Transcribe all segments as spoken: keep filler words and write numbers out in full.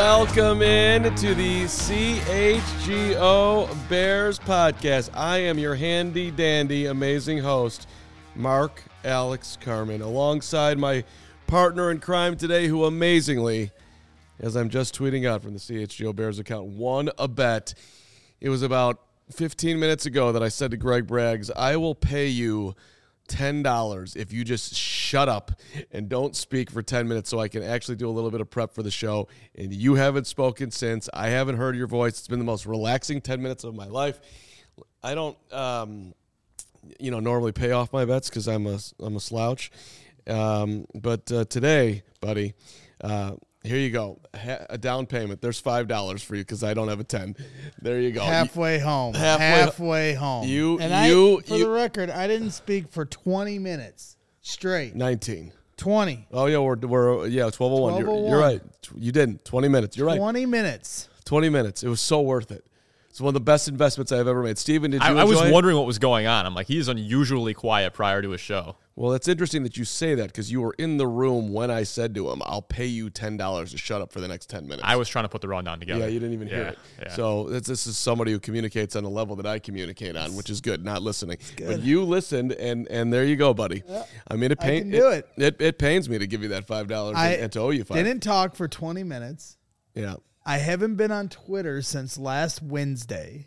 Welcome in to the C H G O Bears podcast. I am your handy dandy, amazing host, Mark Alex Carmen, alongside my partner in crime today, who amazingly, as I'm just tweeting out from the C H G O Bears account, won a bet. It was about fifteen minutes ago that I said to Greg Braggs, I will pay you ten dollars if you just shut up and don't speak for ten minutes so I can actually do a little bit of prep for the show. And you haven't spoken since. I haven't heard your voice. It's been the most relaxing ten minutes of my life. I don't, um, you know, normally pay off my bets because I'm a, I'm a slouch. Um, but uh, today, buddy, uh, here you go. Ha- a down payment. There's five dollars for you because I don't have a ten. There you go. Halfway home. Halfway, Halfway home. You, and you, I, for you, the record, I didn't speak for twenty minutes straight. nineteen. twenty. Oh, yeah, we're, we're yeah, twelve oh one. You're, you're right. You didn't. twenty minutes. You're right. twenty minutes. twenty minutes. It was so worth it. It's one of the best investments I've ever made. Steven, did you I, enjoy I was it? wondering what was going on. I'm like, he's unusually quiet prior to his show. Well, it's interesting that you say that because you were in the room when I said to him, I'll pay you ten dollars to shut up for the next ten minutes. I was trying to put the rundown together. Yeah, you didn't even yeah, hear it. Yeah. So this, this is somebody who communicates on the level that I communicate on, which is good, not listening. Good. But you listened, and and there you go, buddy. Yeah, I mean, it, I pain, can do it. It, it. It pains me to give you that five dollars I and, and to owe you five. Didn't talk for twenty minutes. Yeah. I haven't been on Twitter since last Wednesday.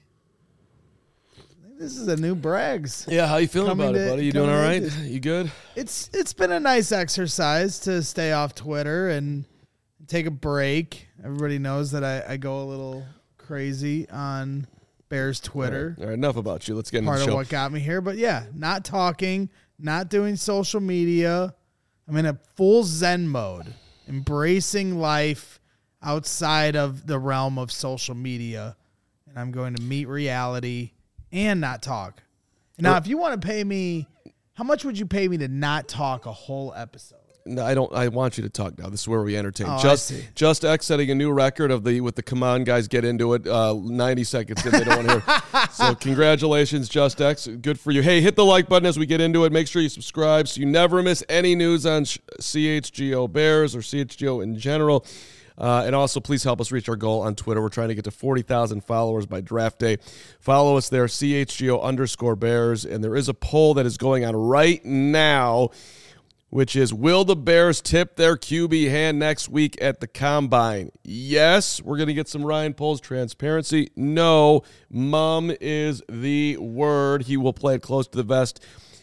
This is a new Braggs. Yeah, how you feeling Coming about it, to- buddy? You doing all right? coming You good? It's it's been a nice exercise to stay off Twitter and take a break. Everybody knows that I, I go a little crazy on Bears Twitter. All right, all right, enough about you. Let's get into Part the of show. what got me here. But yeah, not talking, not doing social media. I'm in a full Zen mode, embracing life outside of the realm of social media. And I'm going to meet reality and not talk. Now, if you want to pay me, how much would you pay me to not talk a whole episode? No, I don't. I want you to talk now. This is where we entertain. Oh, I just, see. Just X setting a new record of the with the come on guys get into it. Uh, ninety seconds if they don't want to hear. So congratulations, Just X. Good for you. Hey, hit the like button as we get into it. Make sure you subscribe so you never miss any news on C H G O Bears or C H G O in general. Uh, and also, please help us reach our goal on Twitter. We're trying to get to forty thousand followers by draft day. Follow us there, C H G O underscore Bears. And there is a poll that is going on right now, which is, will the Bears tip their Q B hand next week at the Combine? Yes, we're going to get some Ryan Poles transparency. No, mum is the word. He will play it close to the vest.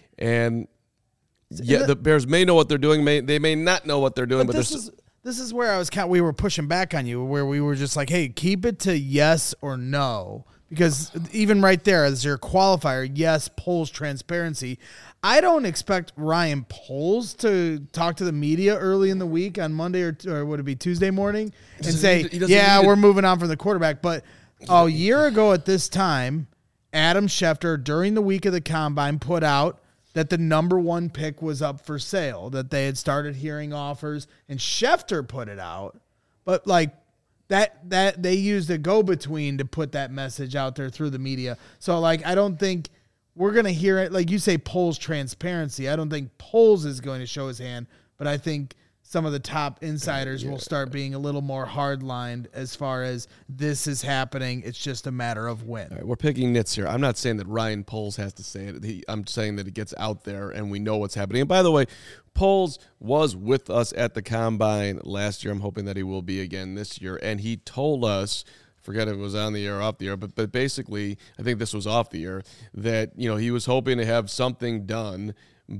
And yeah, the Bears may know what they're doing. May They may not know what they're doing, but, But this there's is this is where I was kind. We were pushing back on you, where we were just like, "Hey, keep it to yes or no," because even right there as your qualifier, yes, Poles transparency. I don't expect Ryan Poles to talk to the media early in the week on Monday or, or would it be Tuesday morning and doesn't say, need to- he doesn't "Yeah, need to- we're moving on from the quarterback." But a year ago at this time, Adam Schefter during the week of the Combine put out that the number one pick was up for sale, that they had started hearing offers, and Schefter put it out. But like that, that they used a go-between to put that message out there through the media. So like, I don't think we're going to hear it. Like you say, Poles transparency. I don't think Poles is going to show his hand, but I think some of the top insiders will start being a little more hard-lined as far as this is happening. It's just a matter of when. All right, we're picking nits here. I'm not saying that Ryan Poles has to say it. He, I'm saying that it gets out there and we know what's happening. And by the way, Poles was with us at the Combine last year. I'm hoping that he will be again this year. And he told us, forget if it was on the air or off the air, but but basically, I think this was off the air, that you know he was hoping to have something done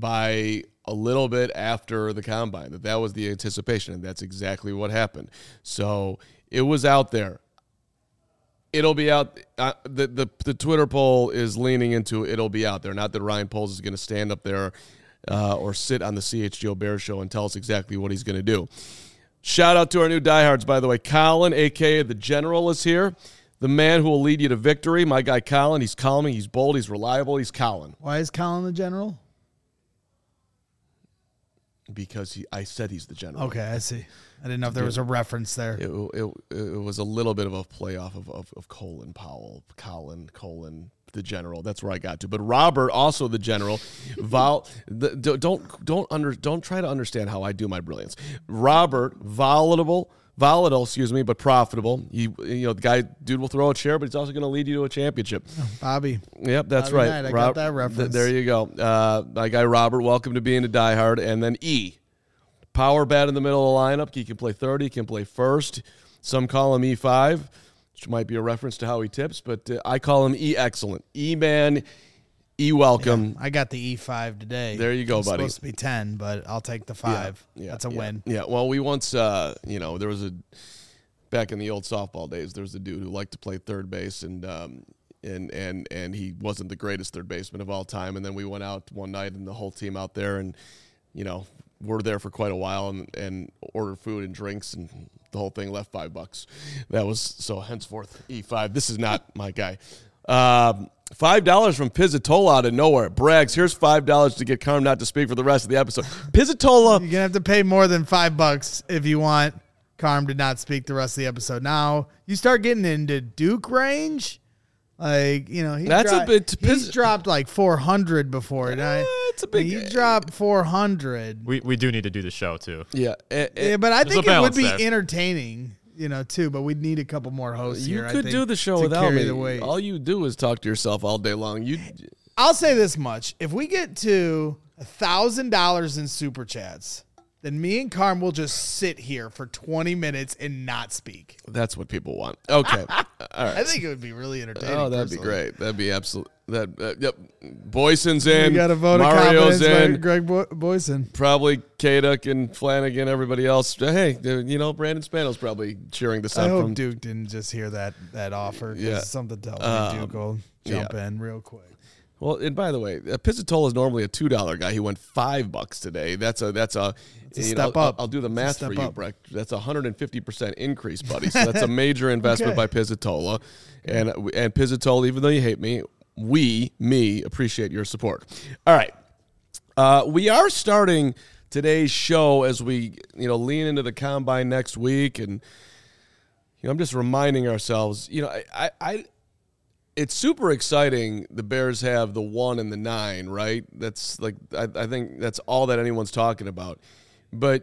by a little bit after the Combine, that that was the anticipation, and that's exactly what happened. So it was out there. It'll be out. Uh, the, the the Twitter poll is leaning into it'll be out there. Not that Ryan Poles is going to stand up there uh, or sit on the C H G O Bears show and tell us exactly what he's going to do. Shout out to our new diehards, by the way. Colin, a k a. The General, is here. The man who will lead you to victory. My guy Colin. He's calming. He's bold. He's reliable. He's Colin. Why is Colin the general? Because he, I said he's the general. Okay, I see. I didn't know if there was a reference there. It, it, it was a little bit of a playoff of, of, of Colin Powell. Colin, Colin, the general. That's where I got to. But Robert, also the general. Vol, the, don't don't under don't try to understand how I do my brilliance. Robert, volatile, volatile, excuse me, but profitable. He, you know, the guy, dude will throw a chair, but he's also going to lead you to a championship. Bobby. Yep, that's Bobby right. Knight, I Rob- got that reference. th- there you go. Uh, my guy Robert, welcome to being a diehard. And then E, power bat in the middle of the lineup. He can play third, he can play first. Some call him E five, which might be a reference to how he tips, but uh, I call him E excellent. E-man, E-welcome. Yeah, I got the E five today. There you go, it's buddy. Supposed to be ten, but I'll take the five. Yeah, That's a yeah, win. Yeah, well, we once, uh, you know, there was a, back in the old softball days, there was a dude who liked to play third base, and um, and and and he wasn't the greatest third baseman of all time. And then we went out one night, and the whole team out there, and, you know, we're there for quite a while, and, and ordered food and drinks, and the whole thing left five bucks. That was, so henceforth, E five. This is not my guy. Um, Five dollars from Pizzatola out of nowhere. Brags, here's five dollars to get Carm not to speak for the rest of the episode. Pizzatola. You're gonna have to pay more than five bucks if you want Carm to not speak the rest of the episode. Now you start getting into Duke range, like you know he's That's dro- a bit- He's dropped like four hundred before. And I, it's a big- He dropped four hundred. We we do need to do the show too. Yeah, eh, eh, Yeah, but I There's think a it would balance be there. entertaining, you know, too. But we'd need a couple more hosts you here. I could think, do the show to without carry me. the weight. All you do is talk to yourself all day long. You, I'll say this much: if we get to a thousand dollars in super chats, then me and Carm will just sit here for twenty minutes and not speak. that's what people want. Okay, all right. I think it would be really entertaining. Oh, that'd be personally. great. That'd be absolute. That uh, yep. Boyson's in. We got a vote Mario's of confidence by in. Greg Bo- Boyson. Probably Kaduk and Flanagan. Everybody else. Hey, you know Brandon Spano's probably cheering this I up hope from. Duke didn't just hear that that offer. 'Cause Yeah. something tells Um, me Duke will jump yeah. in real quick. Well, and by the way, uh, Pizzatola is normally a two dollar guy. He went five bucks today. That's a that's a, a you step know, I'll- up. I'll, do the It's a math step for you, up. Breck. That's a hundred and fifty percent increase, buddy. So that's a major investment Okay. by Pizzatola, and and Pizzatola. Even though you hate me, we me appreciate your support. All right, uh, we are starting today's show as we you know lean into the combine next week, and you know I'm just reminding ourselves. You know I I. I It's super exciting. The Bears have the one and the nine, right? That's like I, I think that's all that anyone's talking about. But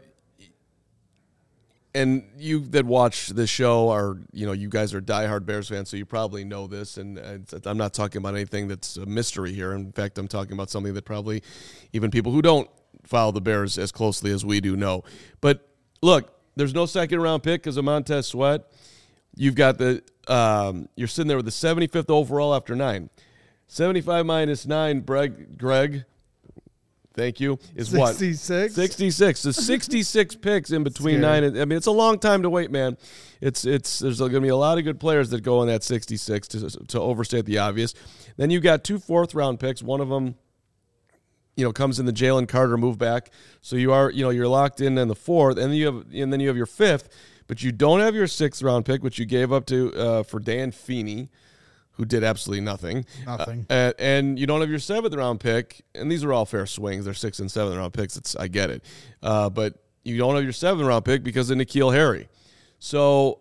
and you that watch the show are you know you guys are diehard Bears fans, so you probably know this. And it's, I'm not talking about anything that's a mystery here. In fact, I'm talking about something that probably even people who don't follow the Bears as closely as we do know. But look, there's no second round pick because of Montez Sweat. You've got the um, you're sitting there with the seventy-fifth overall after nine. seventy-five minus nine, Greg, Greg, thank you, is what? sixty-six? sixty-six. The sixty-six picks in between Scary. nine and, I mean, it's a long time to wait, man. It's it's there's going to be a lot of good players that go in that sixty-six to to overstate the obvious. Then you got two fourth round picks. One of them, you know, comes in the Jalen Carter move back. So you are, you know, you're locked in in the fourth, and then you have and then you have your fifth. But you don't have your sixth round pick, which you gave up to uh, for Dan Feeney, who did absolutely nothing. Nothing. Uh, and, and you don't have your seventh round pick, and these are all fair swings. They're sixth and seventh round picks. It's I get it. Uh, but you don't have your seventh round pick because of N'Keal Harry. So,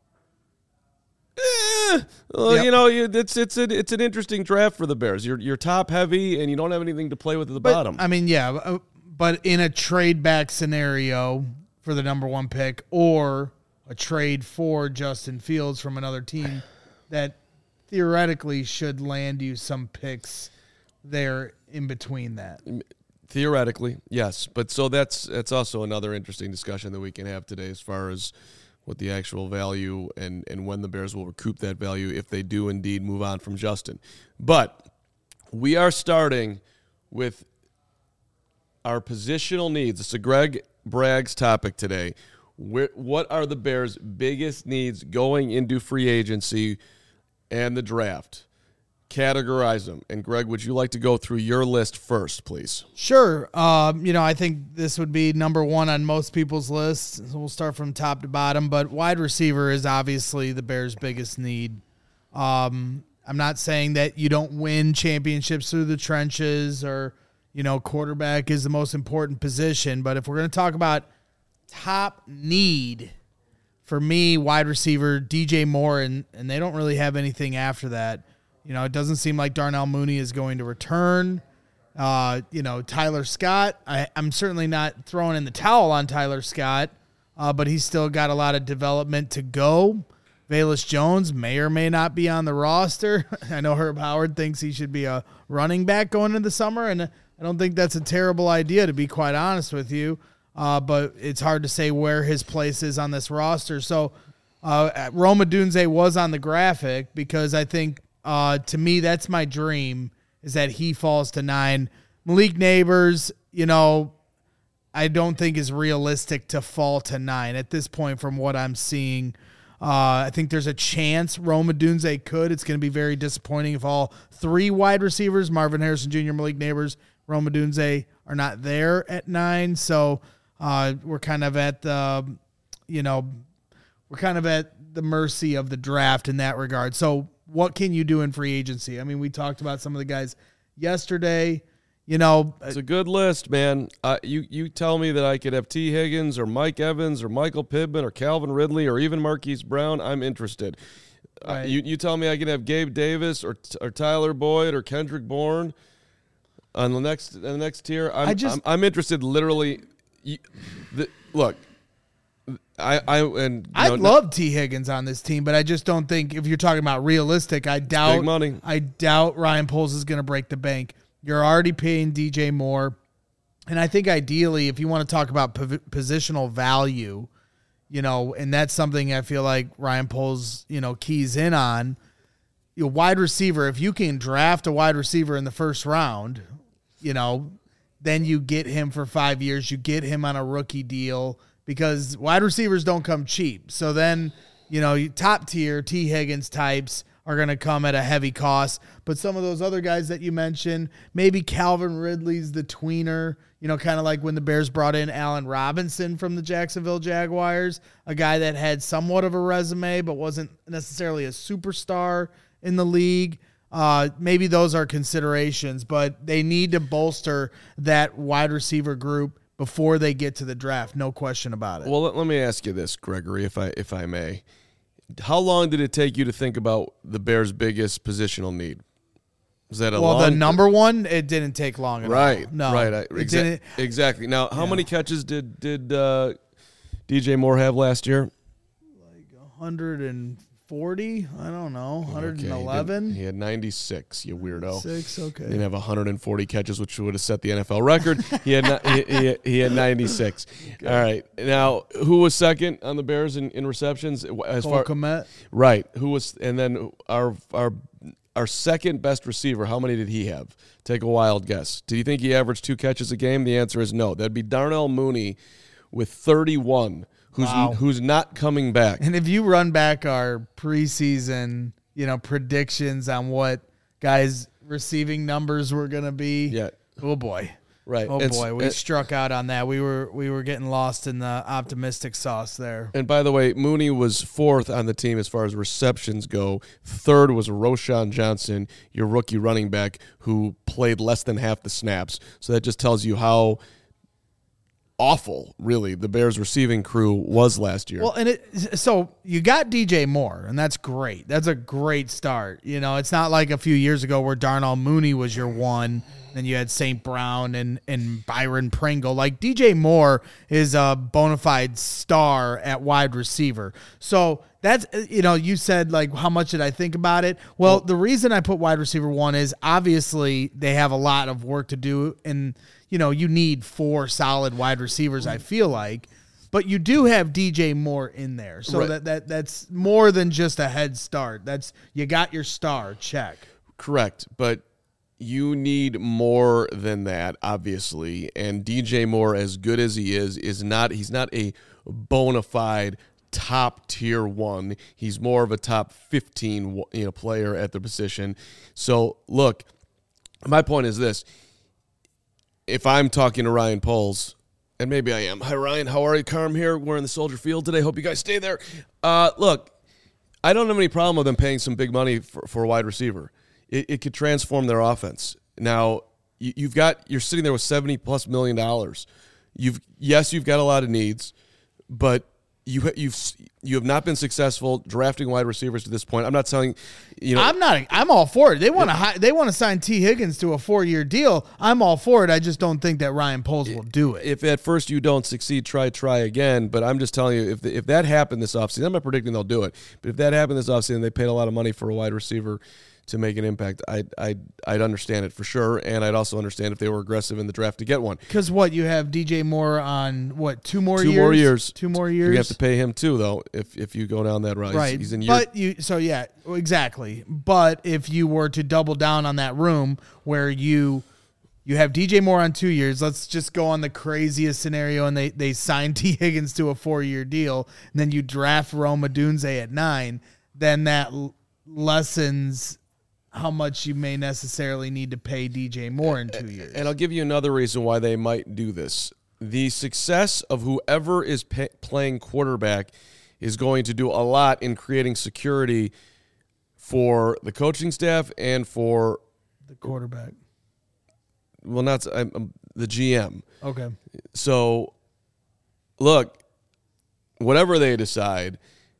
eh, well, Yep. you know, you, it's it's an it's an interesting draft for the Bears. You're you're top heavy, and you don't have anything to play with at the But, bottom. I mean, yeah, uh, but in a trade back scenario for the number one pick or a trade for Justin Fields from another team that theoretically should land you some picks there in between that. Theoretically, yes, but so that's that's also another interesting discussion that we can have today as far as what the actual value and, and when the Bears will recoup that value if they do indeed move on from Justin. But we are starting with our positional needs. It's a Greg Bragg's topic today. Where, what are the Bears' biggest needs going into free agency and the draft? Categorize them. And Greg, would you like to go through your list first, please? Sure. Um, you know, I think this would be number one on most people's lists. So we'll start from top to bottom, but wide receiver is obviously the Bears' biggest need. Um, I'm not saying that you don't win championships through the trenches or, you know, quarterback is the most important position. But if we're going to talk about top need, for me, wide receiver, D J Moore, and, and they don't really have anything after that. You know, it doesn't seem like Darnell Mooney is going to return. Uh, you know, Tyler Scott, I, I'm certainly not throwing in the towel on Tyler Scott. uh, but he's still got a lot of development to go. Velus Jones may or may not be on the roster. I know Herb Howard thinks he should be a running back going into the summer, and I don't think that's a terrible idea, to be quite honest with you. Uh, but it's hard to say where his place is on this roster. So uh, Rome Odunze was on the graphic because I think, uh, to me, that's my dream, is that he falls to nine. Malik Neighbors, you know, I don't think is realistic to fall to nine at this point from what I'm seeing. Uh, I think there's a chance Rome Odunze could. It's going to be very disappointing if all three wide receivers, Marvin Harrison Junior, Malik Neighbors, Rome Odunze, are not there at nine. So uh, we're kind of at the, you know, we're kind of at the mercy of the draft in that regard. So what can you do in free agency? I mean, we talked about some of the guys yesterday. You know, it's a good list, man. Uh, you you tell me that I could have T. Higgins or Mike Evans or Michael Pittman or Calvin Ridley or even Marquise Brown. I'm interested. Right. Uh, you you tell me I can have Gabe Davis or or Tyler Boyd or Kendrick Bourne on the next on the next tier. I'm I just, I'm, I'm interested. Literally, you, the, look. I I and I know, love T. Higgins on this team, but I just don't think, if you're talking about realistic, I doubt big money. I doubt Ryan Poles is going to break the bank. You're already paying D J Moore. And I think ideally, if you want to talk about po- positional value, you know, and that's something I feel like Ryan Poles, you know, keys in on, you know, wide receiver, if you can draft a wide receiver in the first round, you know, then you get him for five years. You get him on a rookie deal because wide receivers don't come cheap. So then, you know, top tier T. Higgins types are going to come at a heavy cost. But some of those other guys that you mentioned, maybe Calvin Ridley's the tweener, you know, kind of like when the Bears brought in Allen Robinson from the Jacksonville Jaguars, a guy that had somewhat of a resume but wasn't necessarily a superstar in the league. Uh, maybe those are considerations, but they need to bolster that wide receiver group before they get to the draft. No question about it. Well, let, let me ask you this, Gregory, if I if I may. How long did it take you to think about the Bears' biggest positional need? Was that a well, long the number one, it didn't take long at right, all. No, right, I, it exa- didn't. exactly. Now, how Yeah. many catches did did uh, D J Moore have last year? Like one hundred forty, I don't know, one hundred eleven. Okay, he, did, he had ninety-six. You weirdo. Six, okay. He didn't have one hundred forty catches, which would have set the N F L record. He had ni- he, he, he had ninety-six. Okay. All right. Now, who was second on the Bears in, in receptions? As Cole far Kmet. right, who was, and then our our our second best receiver. How many did he have? Take a wild guess. Do you think he averaged two catches a game? The answer is no. That'd be Darnell Mooney with thirty-one. Who's Wow. who's not coming back? And if you run back our preseason, you know, predictions on what guys' receiving numbers were going to be, Yeah. oh boy, Right. oh And- boy, we and- struck out on that. We were we were getting lost in the optimistic sauce there. And by the way, Mooney was fourth on the team as far as receptions go. Third was Roshan Johnson, your rookie running back, who played less than half the snaps. So that just tells you how awful, really, the Bears receiving crew was last year. Well, and it so you got D J Moore, and that's great. That's a great start. You know, it's not like a few years ago where Darnell Mooney was your one, then you had Saint Brown and and Byron Pringle. Like D J Moore is a bona fide star at wide receiver. So that's, you know, you said like, how much did I think about it? Well, well, the reason I put wide receiver one is obviously they have a lot of work to do, and you know, you need four solid wide receivers, I feel like. But you do have D J Moore in there. So right. that, that that's more than just a head start. That's you got your star, check. Correct. But you need more than that, obviously. And D J Moore, as good as he is, is not he's not a bona fide top tier one. He's more of a top fifteen, you know, player at the position. So look, my point is this. If I'm talking to Ryan Poles, and maybe I am. Hi, Ryan. How are you? Carm here. We're in the Soldier Field today. Hope you guys stay there. Uh, look, I don't have any problem with them paying some big money for, for a wide receiver. It, it could transform their offense. Now, you, you've got you're sitting there with seventy plus million dollars. You've yes, you've got a lot of needs, but you ha- you've you have not been successful drafting wide receivers to this point. I'm not telling you know. I'm not. I'm all for it. They want to. They want to sign T. Higgins to a four-year deal. I'm all for it. I just don't think that Ryan Poles will do it. If at first you don't succeed, try try again. But I'm just telling you, if the, if that happened this offseason, I'm not predicting they'll do it. But if that happened this offseason, they paid a lot of money for a wide receiver to make an impact, I'd, I'd, I'd understand it for sure, and I'd also understand if they were aggressive in the draft to get one. Because what, you have D J Moore on, what, two more two years? Two more years. Two more years. You have to pay him too, though, if if you go down that route. Right. He's, he's in year. But you, so yeah, exactly. But if you were to double down on that room where you you have D J Moore on two years, let's just go on the craziest scenario, and they, they sign T. Higgins to a four-year deal, and then you draft Rome Odunze at nine, then that l- lessens how much you may necessarily need to pay D J Moore in two years. And I'll give you another reason why they might do this. The success of whoever is pay, playing quarterback is going to do a lot in creating security for the coaching staff and for the quarterback. Well, not um, um, the G M. Okay. So, look, whatever they decide,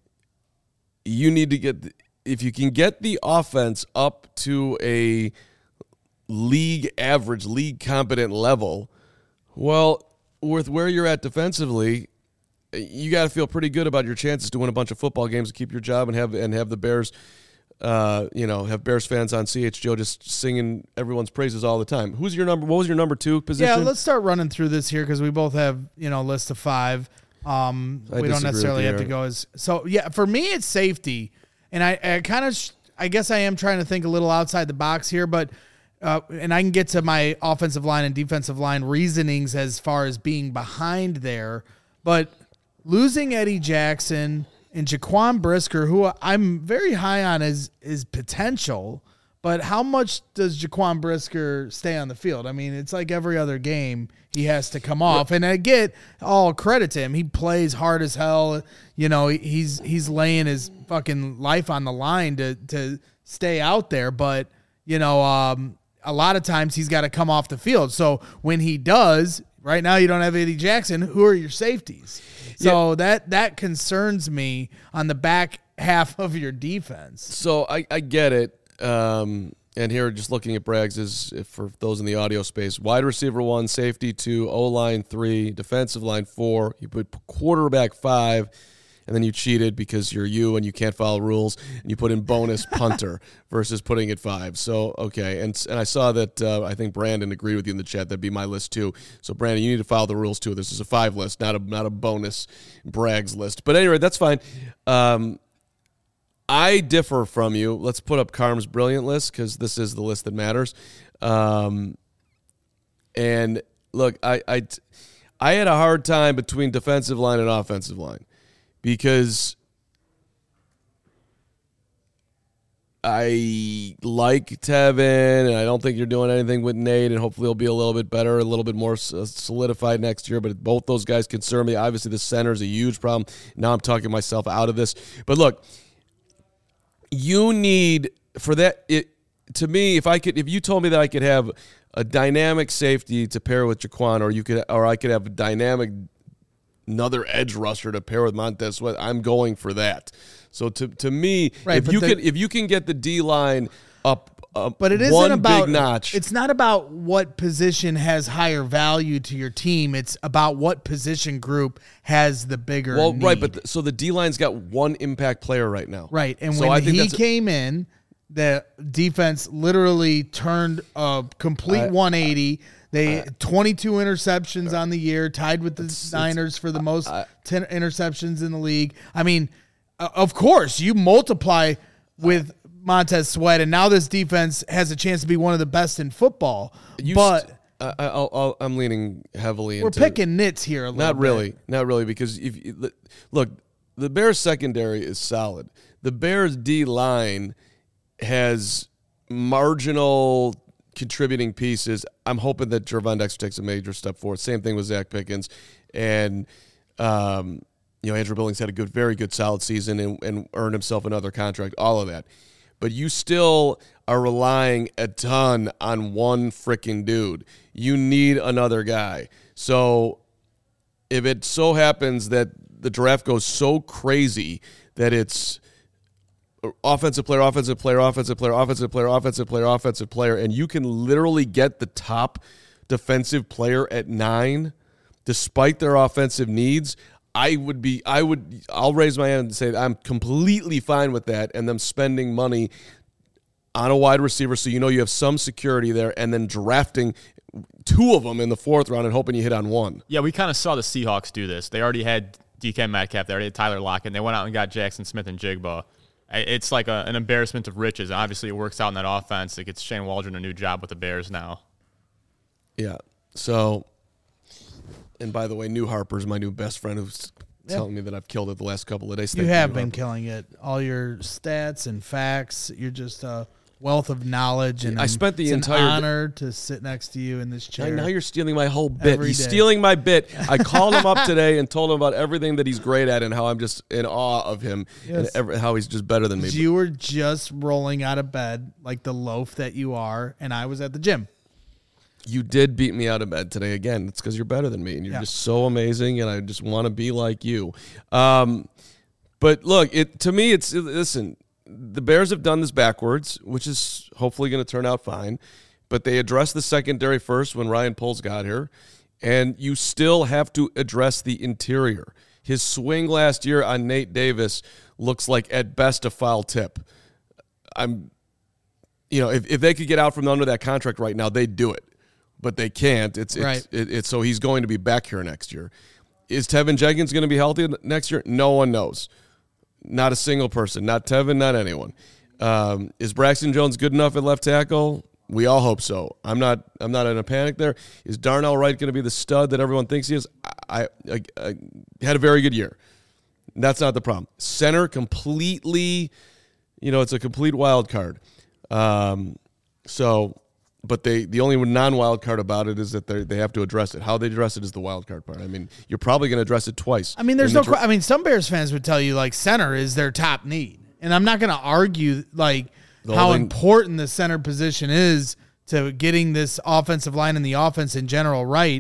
you need to get the, if you can get the offense up to a league average, league competent level, well, with where you're at defensively, you got to feel pretty good about your chances to win a bunch of football games and keep your job and have and have the Bears, uh, you know, have Bears fans on C H G O just singing everyone's praises all the time. Who's your number? What was your number two position? Yeah, let's start running through this here because we both have, you know, a list of five. Um, I we don't necessarily have to here. go as so. Yeah, for me, it's safety. And I, I kind of, sh- I guess I am trying to think a little outside the box here, but, uh, and I can get to my offensive line and defensive line reasonings as far as being behind there. But losing Eddie Jackson and Jaquan Brisker, who I'm very high on as is potential, but how much does Jaquan Brisker stay on the field? I mean, it's like every other game he has to come off. And I get all credit to him. He plays hard as hell. You know, he's he's laying his fucking life on the line to to stay out there. But, you know, um, a lot of times he's got to come off the field. So when he does, right now you don't have Eddie Jackson. Who are your safeties? So yeah. that that concerns me on the back half of your defense. So I, I get it. Um, and here, just looking at Braggs, is for those in the audio space: wide receiver one, safety two, O line three, defensive line four. You put quarterback five, and then you cheated because you're you and you can't follow rules, and you put in bonus punter versus putting it five. So okay, and and I saw that uh, I think Brandon agreed with you in the chat. That'd be my list too. So Brandon, you need to follow the rules too. This is a five list, not a not a bonus Braggs list. But anyway, that's fine. Um, I differ from you. Let's put up Carm's brilliant list because this is the list that matters. Um, and look, I, I, I had a hard time between defensive line and offensive line because I like Tevin, and I don't think you're doing anything with Nate, and hopefully he'll be a little bit better, a little bit more solidified next year, but both those guys concern me. Obviously, the center is a huge problem. Now I'm talking myself out of this. But look, you need for that it to me if I could if you told me that I could have a dynamic safety to pair with Jaquan, or you could or I could have a dynamic another edge rusher to pair with Montez Sweat, I'm going for that. So to to me, right, if you the, can if you can get the D line up up but it isn't one about big notch. It's not about what position has higher value to your team. It's about what position group has the bigger well, need. right, but the, so the D line's got one impact player right now, right? And so when I think he that's came in, the defense literally turned a complete I, one eighty. They I, twenty-two interceptions on the year, tied with the it's, Niners it's, for the most I, ten interceptions in the league. I mean, uh, of course, you multiply with Montez Sweat, and now this defense has a chance to be one of the best in football. But st- I, I'll, I'll, I'm leaning heavily we're into picking nits here a little Not bit. really. Not really, because if you, look, the Bears secondary is solid. The Bears D-line has marginal contributing pieces. I'm hoping that Gervon Dexter takes a major step forward. Same thing with Zach Pickens. And, um, you know, Andrew Billings had a good, very good, solid season and, and earned himself another contract, all of that. But you still are relying a ton on one freaking dude. You need another guy. So if it so happens that the draft goes so crazy that it's offensive player, offensive player, offensive player, offensive player, offensive player, offensive player, and you can literally get the top defensive player at nine despite their offensive needs. I would be, I would, I'll raise my hand and say I'm completely fine with that and them spending money on a wide receiver so you know you have some security there and then drafting two of them in the fourth round and hoping you hit on one. Yeah, we kind of saw the Seahawks do this. They already had D K Metcalf. They already had Tyler Lockett. And they went out and got Jackson Smith and Jigba. It's like a, an embarrassment of riches. And obviously, it works out in that offense. It gets Shane Waldron a new job with the Bears now. Yeah. So, and by the way, New Harper's my new best friend who's yep. telling me that I've killed it the last couple of days. You Thank have you, been Harper. killing it. All your stats and facts. You're just a wealth of knowledge. And I spent the it's entire an honor to sit next to you in this chair. Now you're stealing my whole bit. Every He's day. stealing my bit. I called him up today and told him about everything that he's great at and how I'm just in awe of him Yes. and every, how he's just better than me. You were just rolling out of bed like the loaf that you are, and I was at the gym. You did beat me out of bed today again. It's because you're better than me, and you're Yeah. just so amazing, and I just want to be like you. Um, but look, it to me, it's listen. The Bears have done this backwards, which is hopefully going to turn out fine. But they addressed the secondary first when Ryan Poles got here, and you still have to address the interior. His swing last year on Nate Davis looks like at best a foul tip. I'm, you know, if if they could get out from under that contract right now, they'd do it. But they can't. It's it's, Right. it, it's so he's going to be back here next year. Is Tevin Jenkins going to be healthy next year? No one knows. Not a single person. Not Tevin. Not anyone. Um, is Braxton Jones good enough at left tackle? We all hope so. I'm not. I'm not in a panic there. Is Darnell Wright going to be the stud that everyone thinks he is? I, I, I had a very good year. That's not the problem. Center completely. You know, it's a complete wild card. Um, so. But they the only non-wild card about it is that they they have to address it. How they address it is the wild card part. I mean, you're probably going to address it twice. I mean, there's In no. the dra- qu- I mean, some Bears fans would tell you like center is their top need, and I'm not going to argue like The how only- important the center position is to getting this offensive line and the offense in general right.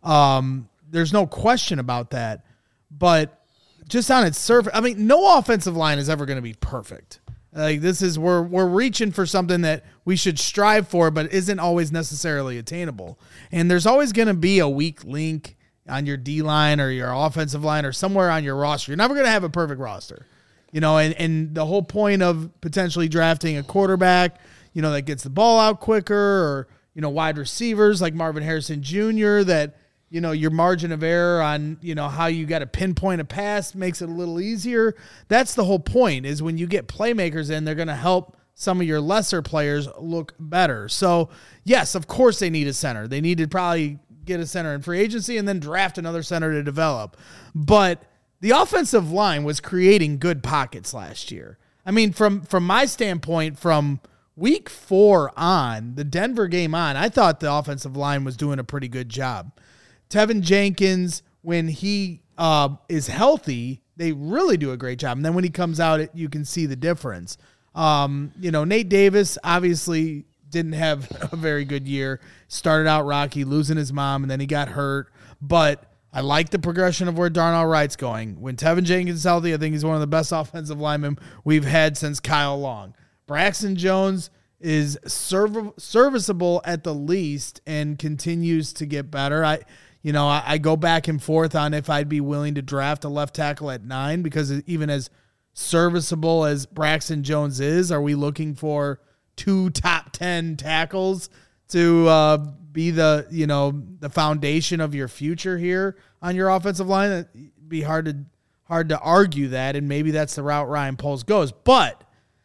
Um, there's no question about that, but just on its surface, I mean, no offensive line is ever going to be perfect. Like this is we're we're reaching for something that we should strive for, but isn't always necessarily attainable. And there's always going to be a weak link on your D line or your offensive line or somewhere on your roster. You're never going to have a perfect roster, you know. And and the whole point of potentially drafting a quarterback, you know, that gets the ball out quicker, or you know, wide receivers like Marvin Harrison Junior that. You know, your margin of error on, you know, how you got to pinpoint a pass makes it a little easier. That's the whole point, is when you get playmakers in, they're going to help some of your lesser players look better. So, yes, of course they need a center. They need to probably get a center in free agency and then draft another center to develop. But the offensive line was creating good pockets last year. I mean, from from my standpoint, from week four on, the Denver game on, I thought the offensive line was doing a pretty good job. Tevin Jenkins, when he uh, is healthy, they really do a great job. And then when he comes out, it, you can see the difference. Um, you know, Nate Davis obviously didn't have a very good year. Started out rocky, losing his mom, and then he got hurt. But I like the progression of where Darnell Wright's going. When Tevin Jenkins is healthy, I think he's one of the best offensive linemen we've had since Kyle Long. Braxton Jones is serv- serviceable at the least and continues to get better. I You know, I, I go back and forth on if I'd be willing to draft a left tackle at nine, because even as serviceable as Braxton Jones is, are we looking for two top ten tackles to uh, be the, you know, the foundation of your future here on your offensive line? It'd be hard to hard to argue that, and maybe that's the route Ryan Poles goes. But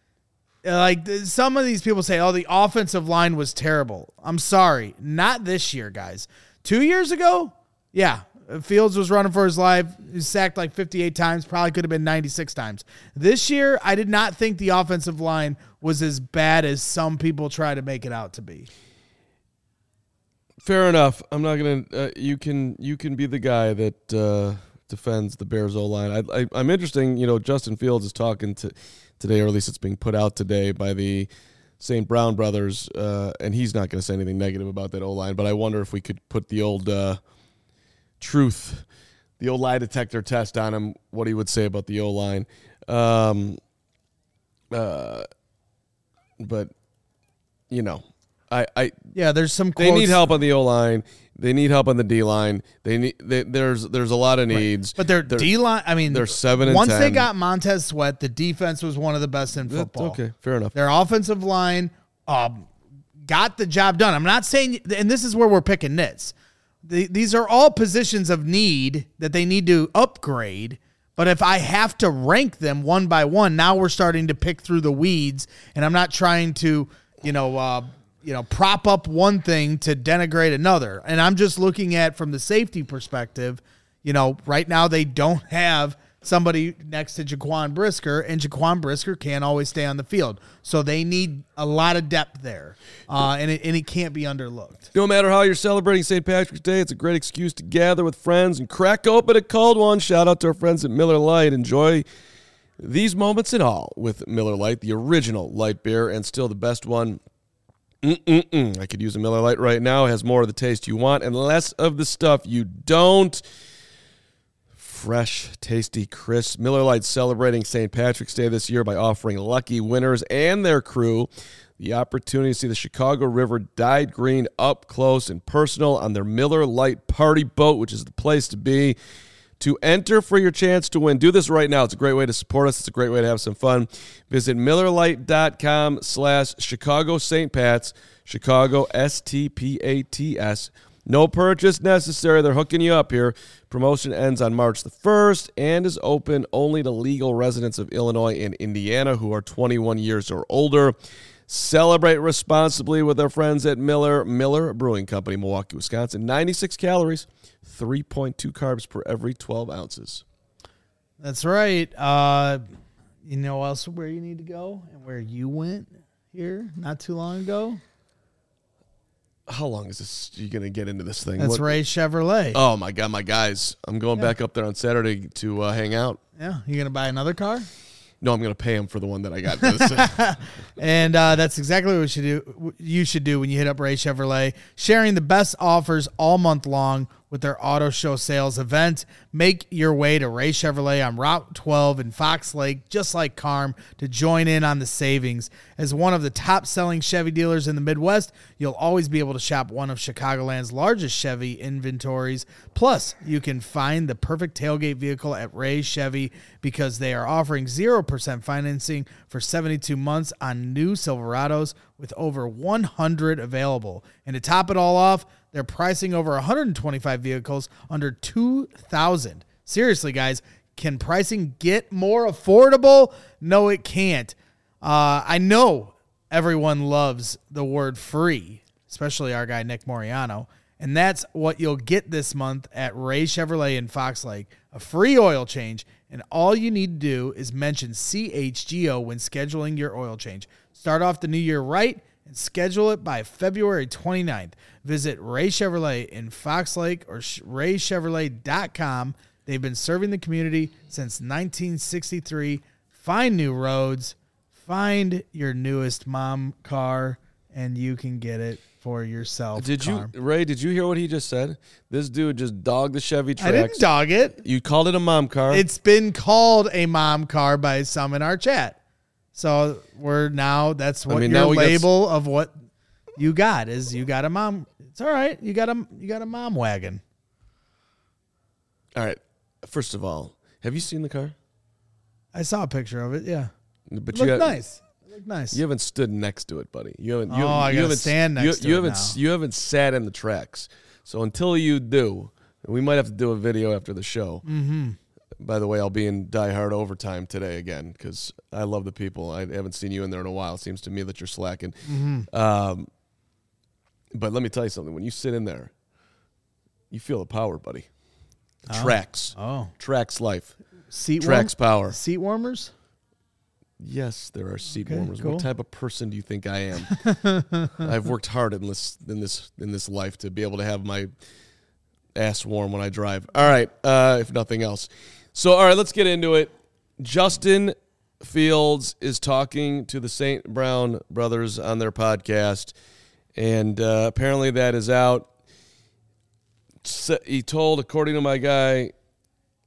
like some of these people say, oh, the offensive line was terrible. I'm sorry, not this year, guys. Two years ago, yeah, Fields was running for his life. He was sacked like fifty-eight times, probably could have been ninety-six times. This year, I did not think the offensive line was as bad as some people try to make it out to be. Fair enough. I'm not gonna. Uh, you can you can be the guy that uh, defends the Bears O line. I, I, I'm interesting. You know, Justin Fields is talking to today, or at least it's being put out today by the Saint Brown brothers, uh, and he's not going to say anything negative about that O line. But I wonder if we could put the old uh, truth the old lie detector test on him, what he would say about the O-line. Um, uh, but, you know, I, I Yeah, there's some they quotes. need help on the O-line. They need help on the D-line. They need they, there's there's a lot of needs. But their They're- D-line, I mean, they're seven and once they ten. got Montez Sweat, the defense was one of the best in That's football. okay, fair enough. Their offensive line um, got the job done. I'm not saying, and this is where we're picking nits. The, these are all positions of need that they need to upgrade. But if I have to rank them one by one, now we're starting to pick through the weeds, and I'm not trying to, you know, uh, you know, prop up one thing to denigrate another. And I'm just looking at from the safety perspective. You know, right now they don't have somebody next to Jaquan Brisker, and Jaquan Brisker can't always stay on the field. So they need a lot of depth there, uh, and, it, and it can't be underlooked. No matter how you're celebrating Saint Patrick's Day, it's a great excuse to gather with friends and crack open a cold one. Shout out to our friends at Miller Lite. Enjoy these moments and all with Miller Lite, the original light beer, and still the best one. Mm-mm-mm. I could use a Miller Lite right now. It has more of the taste you want and less of the stuff you don't. Fresh, tasty, crisp. Miller Lite celebrating Saint Patrick's Day this year by offering lucky winners and their crew the opportunity to see the Chicago River dyed green up close and personal on their Miller Lite party boat, which is the place to be. To enter for your chance to win, do this right now. It's a great way to support us. It's a great way to have some fun. Visit MillerLite.com slash Chicago Saint Pats, Chicago S T P A T S. No purchase necessary. They're hooking you up here. Promotion ends on March the first and is open only to legal residents of Illinois and Indiana who are twenty-one years or older. Celebrate responsibly with our friends at Miller, Miller Brewing Company, Milwaukee, Wisconsin. ninety-six calories, three point two carbs per every twelve ounces. That's right. Uh, you know else where you need to go and where you went here not too long ago? How long is this? You going to get into this thing? That's What- Ray Chevrolet. Oh, my God, my guys. I'm going Yeah. back up there on Saturday to uh, hang out. Yeah, you gonna buy another car? No, I'm going to pay him for the one that I got. And uh, that's exactly what you should do. You should do when you hit up Ray Chevrolet, sharing the best offers all month long with their auto show sales event. Make your way to Ray Chevrolet on Route twelve in Fox Lake, just like Carm, to join in on the savings. As one of the top-selling Chevy dealers in the Midwest, you'll always be able to shop one of Chicagoland's largest Chevy inventories. Plus, you can find the perfect tailgate vehicle at Ray Chevy because they are offering zero percent financing for seventy-two months on new Silverados with over one hundred available. And to top it all off, they're pricing over one hundred twenty-five vehicles under two thousand dollars. Seriously, guys, can pricing get more affordable? No, it can't. Uh, I know everyone loves the word free, especially our guy Nick Moriano, and that's what you'll get this month at Ray Chevrolet in Fox Lake, a free oil change, and all you need to do is mention C H G O when scheduling your oil change. Start off the new year right and schedule it by February twenty-ninth. Visit Ray Chevrolet in Fox Lake or ray chevrolet dot com. They've been serving the community since nineteen sixty-three. Find new roads, find your newest mom car, and you can get it for yourself. Did you, Carm. Ray, did you hear what he just said? This dude just dogged the Chevy I tracks. didn't dog it. You called it a mom car. It's been called a mom car by some in our chat. So we're now, that's what mean, your now we got s- label of what you got is you got a mom. It's all right. You got a, you got a mom wagon. All right. First of all, have you seen the car? I saw a picture of it. Yeah. But It you looked ha- nice. It looked nice. You haven't stood next to it, buddy. You haven't. You, Oh, I you gotta haven't stand you, next to you it haven't. now. You haven't sat in the tracks. So until you do, we might have to do a video after the show. Mm-hmm. By the way, I'll be in Die Hard overtime today again because I love the people. I haven't seen you in there in a while. It seems to me that you're slacking. Mm-hmm. Um, but let me tell you something. When you sit in there, you feel the power, buddy. The Oh. Tracks. Oh, Tracks life. seat Tracks warm- power. Seat warmers. Yes, there are seat Okay, warmers. cool. What type of person do you think I am? I've worked hard in this in this in this life to be able to have my ass warm when I drive. All right, uh, if nothing else. So, all right, let's get into it. Justin Fields is talking to the Saint Brown brothers on their podcast, and uh, apparently that is out. So he told, according to my guy,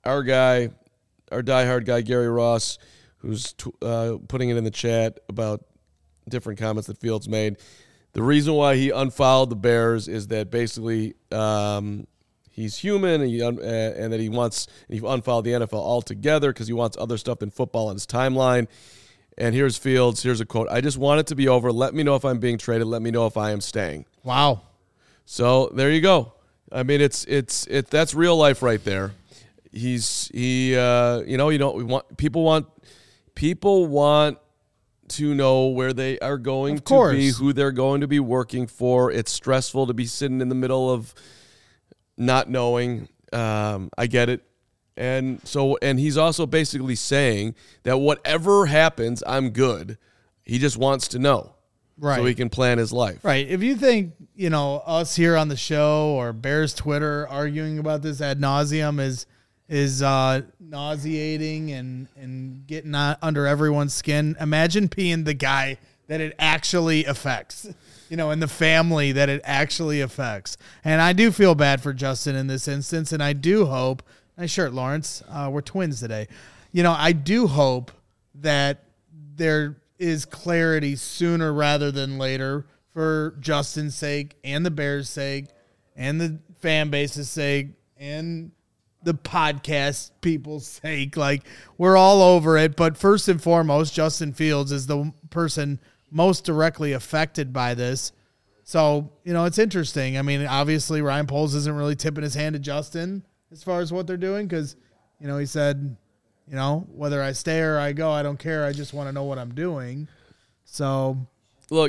our guy, our diehard guy, Gary Ross, who's t- uh, putting it in the chat about different comments that Fields made. The reason why he unfollowed the Bears is that basically um, he's human and, he un- uh, and that he wants he unfollowed the N F L altogether because he wants other stuff than football on his timeline. And here's Fields. Here's a quote. I just want it to be over. Let me know if I'm being traded. Let me know if I am staying. Wow. So there you go. I mean, it's it's it. That's real life right there. He's he. Uh, you know, you don't we want people want people want to know where they are going Of course. to be, who they're going to be working for. It's stressful to be sitting in the middle of not knowing. Um, I get it. And so, and he's also basically saying that whatever happens, I'm good. He just wants to know, Right. so he can plan his life. Right. If you think, you know, us here on the show or Bears Twitter arguing about this ad nauseum is is uh, nauseating and, and getting on, under everyone's skin, imagine being the guy that it actually affects, you know, and the family that it actually affects. And I do feel bad for Justin in this instance, and I do hope, nice shirt, Lawrence, uh, we're twins today. You know, I do hope that there is clarity sooner rather than later for Justin's sake and the Bears' sake and the fan base's sake and the podcast people's sake. Like, we're all over it. But first and foremost, Justin Fields is the person most directly affected by this. So, you know, it's interesting. I mean, obviously Ryan Poles isn't really tipping his hand to Justin as far as what they're doing because, you know, he said, you know, whether I stay or I go, I don't care. I just want to know what I'm doing. So, Look,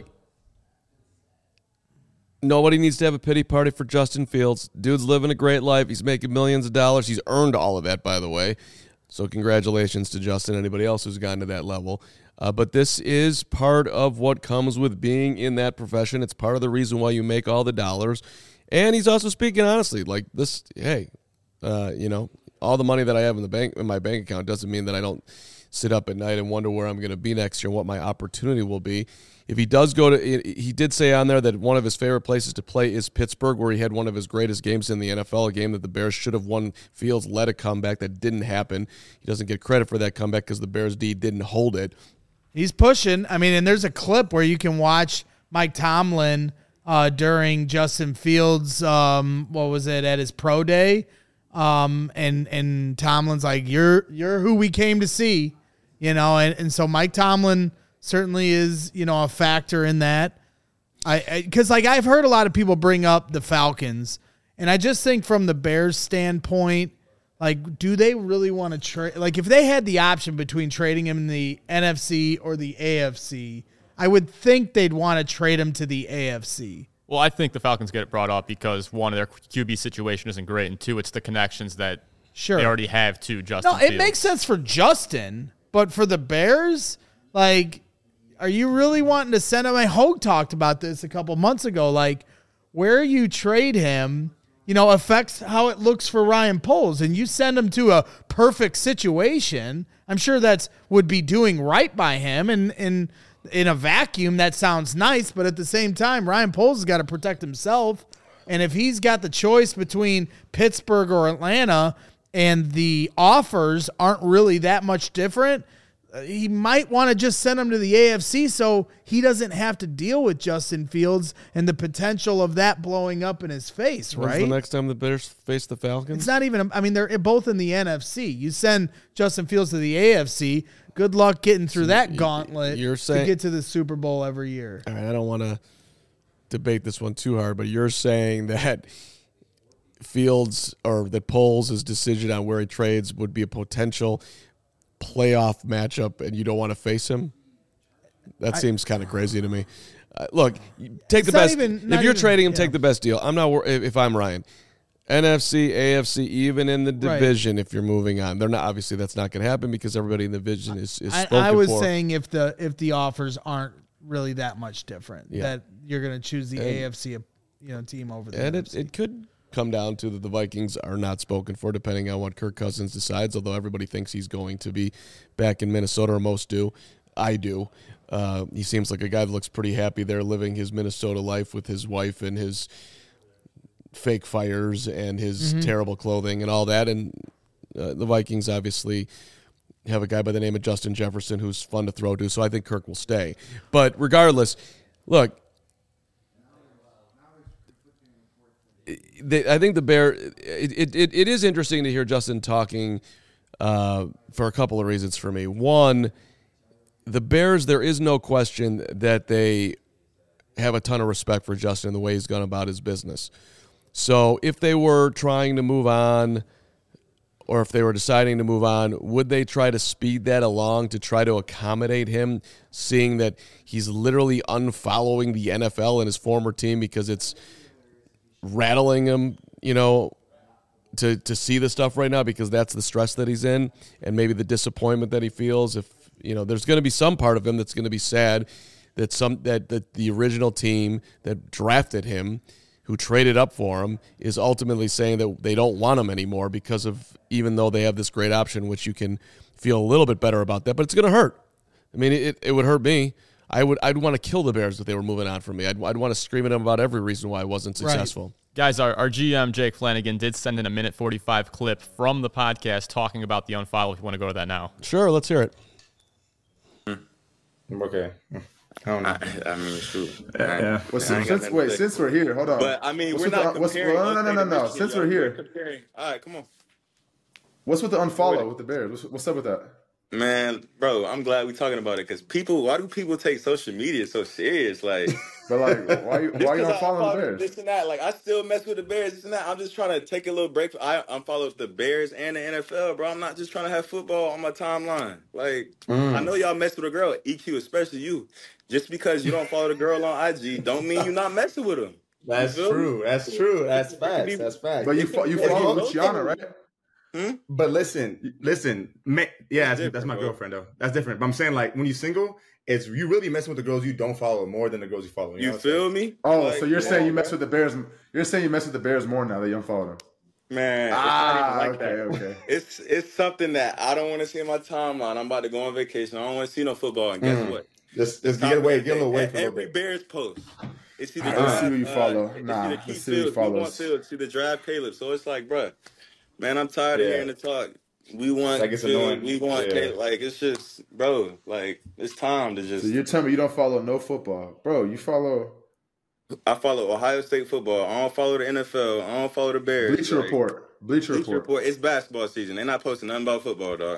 nobody needs to have a pity party for Justin Fields. Dude's living a great life. He's making millions of dollars. He's earned all of that, by the way. So congratulations to Justin, anybody else who's gotten to that level. Uh, but this is part of what comes with being in that profession. It's part of the reason why you make all the dollars. And he's also speaking honestly, like this, hey, uh, you know, all the money that I have in the bank in my bank account doesn't mean that I don't sit up at night and wonder where I'm going to be next year and what my opportunity will be. If he does go to, he did say on there that one of his favorite places to play is Pittsburgh, where he had one of his greatest games in the N F L, a game that the Bears should have won. Fields led a comeback that didn't happen. He doesn't get credit for that comeback because the Bears D didn't hold it. he's pushing. I mean, and there's a clip where you can watch Mike Tomlin uh, during Justin Fields, um, what was it, at his pro day. Um, and, and Tomlin's like, you're, you're who we came to see, you know? And, and so Mike Tomlin certainly is, you know, a factor in that. I, I cause like I've heard a lot of people bring up the Falcons, and I just think from the Bears standpoint, like, do they really want to trade? Like, if they had the option between trading him in the N F C or the A F C, I would think they'd want to trade him to the A F C. Well, I think the Falcons get it brought up because, one, their Q B situation isn't great, and two, it's the connections that Sure. they already have to Justin No, it Fields. makes sense for Justin, but for the Bears, like, are you really wanting to send him? I Hogue talked about this a couple months ago. Like, where you trade him, you know, affects how it looks for Ryan Poles, and you send him to a perfect situation. I'm sure that's would be doing right by him, and and in a vacuum, that sounds nice. But at the same time, Ryan Poles has got to protect himself, and if he's got the choice between Pittsburgh or Atlanta, and the offers aren't really that much different, he might want to just send him to the A F C so he doesn't have to deal with Justin Fields and the potential of that blowing up in his face, When's right? the next time the Bears face the Falcons? It's not even, I mean, they're both in the N F C. You send Justin Fields to the A F C, good luck getting through that gauntlet you're saying, to get to the Super Bowl every year. All right, I don't want to debate this one too hard, but you're saying that Fields or that Poles' decision on where he trades would be a potential playoff matchup, and you don't want to face him? That I, seems kind of crazy to me. Uh, look, take the best. Even, if you're even, trading him, yeah. take the best deal. I'm not wor- if, if I'm Ryan. N F C, A F C, even in the division, right. If you're moving on, they're not. Obviously, that's not going to happen because everybody in the division is, is spoken I, I was for. saying if the if the offers aren't really that much different, yeah. that you're going to choose the and, A F C, you know, team over the and N F C. it, it could come down to that the Vikings are not spoken for, depending on what Kirk Cousins decides, although everybody thinks he's going to be back in Minnesota, or most do. I do. Uh, he seems like a guy that looks pretty happy there, living his Minnesota life with his wife and his fake fires and his mm-hmm. terrible clothing and all that. And Uh, the Vikings obviously have a guy by the name of Justin Jefferson who's fun to throw to, so I think Kirk will stay. But regardless, look, they, I think the Bear. It, it it is interesting to hear Justin talking uh, for a couple of reasons for me. One, the Bears. There is no question that they have a ton of respect for Justin and the way he's gone about his business. So if they were trying to move on, or if they were deciding to move on, would they try to speed that along to try to accommodate him, seeing that he's literally unfollowing the N F L and his former team because it's rattling him, you know, to, to see the stuff right now because that's the stress that he's in and maybe the disappointment that he feels. If, you know, there's going to be some part of him that's going to be sad that some that, that the original team that drafted him, who traded up for him, is ultimately saying that they don't want him anymore because of, even though they have this great option, which you can feel a little bit better about that, but it's going to hurt. I mean, it, it would hurt me. I would, I'd want to kill the Bears if they were moving on from me. I'd, I'd want to scream at them about every reason why I wasn't successful. Right. Guys, our, our G M, Jake Flanagan, did send in a minute forty-five clip from the podcast talking about the unfollow if you want to go to that now. Sure, let's hear it. Okay. I don't know. I, I mean, shoot. Yeah. yeah. Well, since, since, wait, since we're here, hold on. But I mean, what's we're not the, what's, comparing. well, no, no, no, no, no. Since we're here, comparing. All right, come on. What's with the unfollow with the Bears? What's, what's up with that? Man, bro, I'm glad we're talking about it because people. Why do people take social media so serious? Like, but like, why you why you unfollowing the Bears? This and that. Like, I still mess with the Bears. This and that. I'm just trying to take a little break. I unfollow the Bears and the N F L, bro. I'm not just trying to have football on my timeline. Like, mm. I know y'all mess with a girl, E Q, especially you. Just because you don't follow the girl on I G, don't mean you're not messing with them. That's true. That's true. That's facts. That's facts. But you fo- you follow Luciana, right? Hmm? But listen, listen, ma- yeah, that's, that's my girlfriend though. That's different. But I'm saying like when you're single, it's you really messing with the girls you don't follow more than the girls you follow. You, you know feel me? Oh, like, so you're saying on, you mess bro. with the Bears? You're saying you mess with the Bears more now that you unfollow them? Man, ah, it's not even like okay, that. okay. It's it's something that I don't want to see in my timeline. I'm about to go on vacation. I don't want to see no football. And guess mm. what? Just, just get away, get a little away from every Bears post. It's either I uh, see who you follow. Uh, nah, it's either let's see who you follow. It's either draft Caleb. So it's like, bruh, man, I'm tired yeah. of hearing the talk. We want, like it's to, annoying. we want, yeah. Caleb. Like it's just, bro, like it's time to just. So you're telling me you don't follow no football, bro? You follow. I follow Ohio State football. I don't follow the N F L. I don't follow the Bears. Bleacher like, Report. Bleacher, Bleacher Report. Report. It's basketball season. They're not posting nothing about football, dog.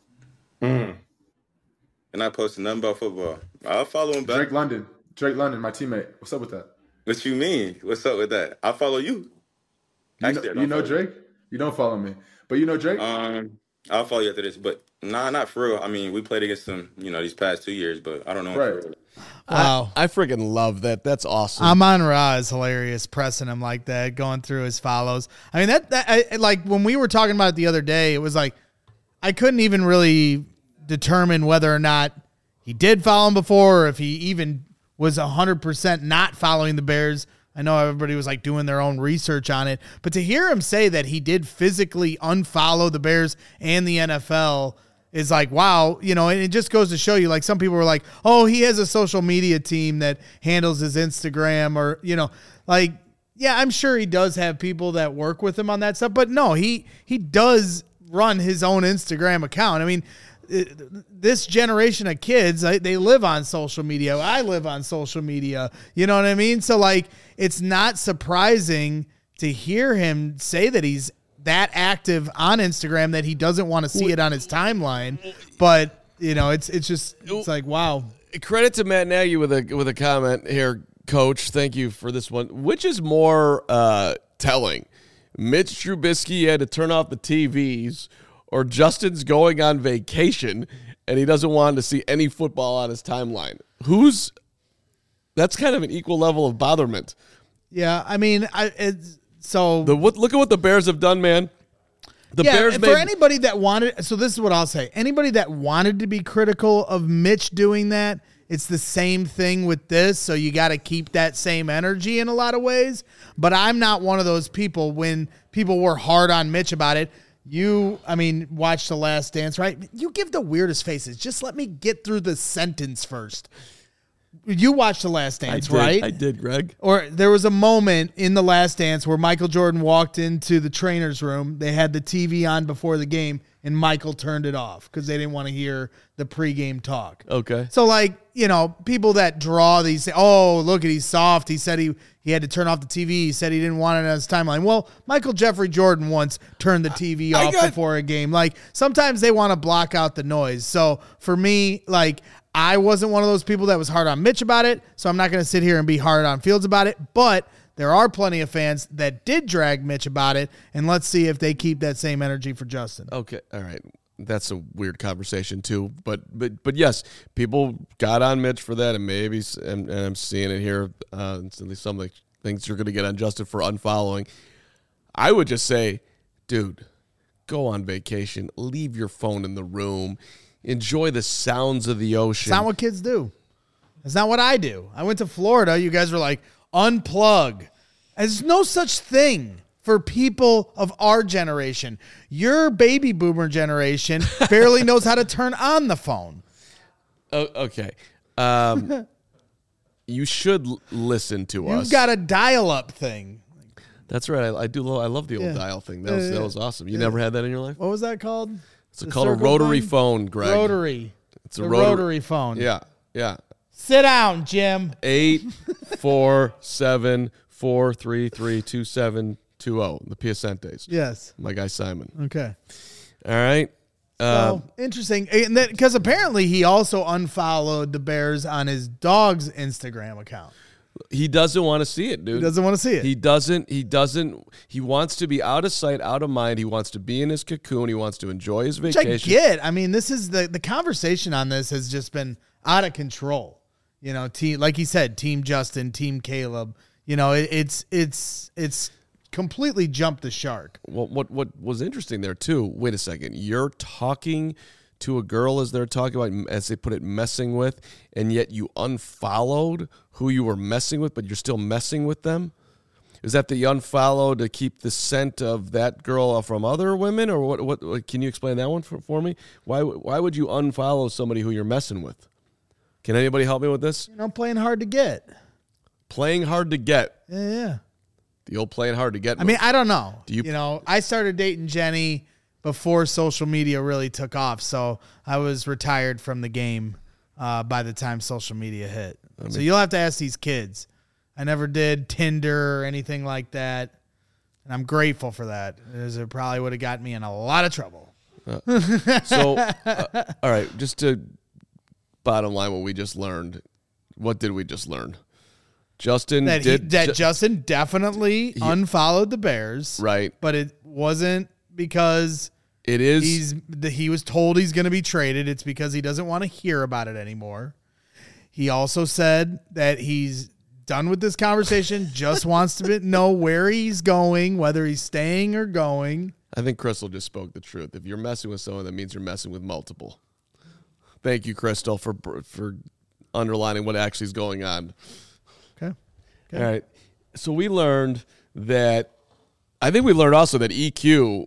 Mm. They're not posting nothing about football. I'll follow him back. Drake London. Drake London, my teammate. What's up with that? What you mean? What's up with that? I follow you. You Actually, know, you know Drake? You. you don't follow me, but you know Drake. Um, I'll follow you after this, but nah, not for real. I mean, we played against them, you know, these past two years, but I don't know. Right. Wow. I, I freaking love that. That's awesome. Amon Ra is hilarious, pressing him like that, going through his follows. I mean, that, that I, like when we were talking about it the other day, it was like I couldn't even really determine whether or not he did follow him before or if he even was one hundred percent not following the Bears. I know everybody was like doing their own research on it, but to hear him say that he did physically unfollow the Bears and the N F L is like, wow, you know, and it just goes to show you, like some people were like, oh, he has a social media team that handles his Instagram or, you know, like, yeah, I'm sure he does have people that work with him on that stuff, but no, he, he does run his own Instagram account. I mean, this generation of kids, they live on social media. I live on social media. You know what I mean? So, like, it's not surprising to hear him say that he's that active on Instagram that he doesn't want to see it on his timeline. But, you know, it's it's just it's like, wow. Credit to Matt Nagy with a with a comment here, Coach. Thank you for this one. Which is more uh, telling? Mitch Trubisky had to turn off the T Vs, or Justin's going on vacation and he doesn't want to see any football on his timeline? Who's that's kind of an equal level of botherment. Yeah, I mean, I it's so the what, look at what the Bears have done, man. The yeah, Bears for made, anybody that wanted. So this is what I'll say: anybody that wanted to be critical of Mitch doing that, it's the same thing with this. So you got to keep that same energy in a lot of ways. But I'm not one of those people. When people were hard on Mitch about it, you, I mean, watch The Last Dance, right? You give the weirdest faces. Just let me get through the sentence first. You watched The Last Dance, I did, right? I did, Greg. Or there was a moment in The Last Dance where Michael Jordan walked into the trainer's room. They had the T V on before the game, and Michael turned it off because they didn't want to hear the pregame talk. Okay. So, like, you know, people that draw these, say, oh, look at he's soft. He said he, he had to turn off the T V. He said he didn't want it on his timeline. Well, Michael Jeffrey Jordan once turned the T V I off got- before a game. Like, sometimes they want to block out the noise. So, for me, like, I wasn't one of those people that was hard on Mitch about it, so I'm not going to sit here and be hard on Fields about it. But there are plenty of fans that did drag Mitch about it, and let's see if they keep that same energy for Justin. Okay. All right. That's a weird conversation too, but but but yes, people got on Mitch for that, and maybe s- and, and I'm seeing it here. Uh, at least some of the things you're going to get on Justin for unfollowing. I would just say, dude, go on vacation, leave your phone in the room, enjoy the sounds of the ocean. It's not what kids do. It's not what I do. I went to Florida. You guys were like, unplug. There's no such thing for people of our generation. Your baby boomer generation barely knows how to turn on the phone. Oh, okay. Um, you should l- listen to us. You've got a dial-up thing. That's right. I, I do. Lo- I love the old Yeah. dial thing. That was Yeah, that yeah. was awesome. You never had that in your life? What was that called? It's The called a circle rotary phone? phone, Greg. Rotary. It's a the rotary. rotary phone. Yeah, yeah. Sit down, Jim. Eight four seven four three three two seven two zero. The Piacentes. Yes. My guy Simon. Okay. All right. Uh, So, interesting. Because apparently he also unfollowed the Bears on his dog's Instagram account. he doesn't want to see it, dude. He doesn't want to see it. He doesn't. He doesn't. He wants to be out of sight, out of mind. He wants to be in his cocoon. He wants to enjoy his Which I vacation. get. I mean, this is the the conversation on this has just been out of control. You know, team like he said, Team Justin, Team Caleb. You know, it, it's it's it's completely jumped the shark. What what what was interesting there too? Wait a second. You're talking to a girl as they're talking about, as they put it, messing with, and yet you unfollowed who you were messing with, but you're still messing with them. Is that the you unfollowed to keep the scent of that girl from other women, or what? What, what can you explain that one for, for me? Why why would you unfollow somebody who you're messing with? Can anybody help me with this? You know, playing hard to get. Playing hard to get. Yeah, yeah. The old playing hard to get. I mean, I don't know. Do you- you know, I started dating Jenny before social media really took off, so I was retired from the game uh, by the time social media hit. So you'll have to ask these kids. I never did Tinder or anything like that, and I'm grateful for that, as it probably would have got me in a lot of trouble. So, uh, all right, just to bottom line, what we just learned. What did we just learn? Justin That he, did that Ju- Justin definitely unfollowed the Bears, right. But it wasn't because It is. he's the, he was told he's going to be traded. It's because he doesn't want to hear about it anymore. He also said that he's done with this conversation, just wants to be, know where he's going, whether he's staying or going. I think Crystal just spoke the truth. If you're messing with someone, that means you're messing with multiple. Thank you, Crystal, for for underlining what actually is going on. Okay. All right. So we learned that. I think we learned also that E Q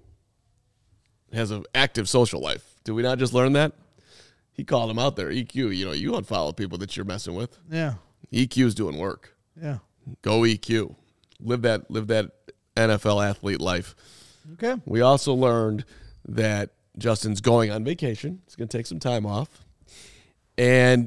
has an active social life. Did we not just learn that? He called him out there. E Q, you know, you unfollow people that you're messing with. Yeah. E Q's doing work. Yeah. Go E Q. Live that live that N F L athlete life. Okay. We also learned that Justin's going on vacation. He's going to take some time off. And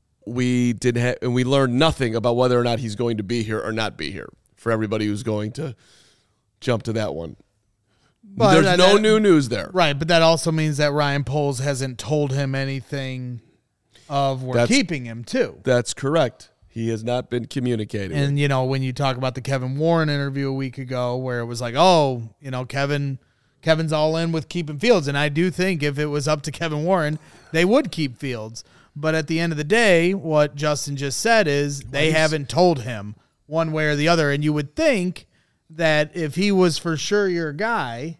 we did ha- and we learned nothing about whether or not he's going to be here or not be here for everybody who's going to jump to that one. But There's that- no that- new news there. Right, but that also means that Ryan Poles hasn't told him anything of we're That's- keeping him too. That's correct. He has not been communicating. And, you know, when you talk about the Kevin Warren interview a week ago where it was like, oh, you know, Kevin, Kevin's all in with keeping Fields. And I do think if it was up to Kevin Warren, they would keep Fields. But at the end of the day, what Justin just said is they haven't told him one way or the other. And you would think that if he was for sure your guy,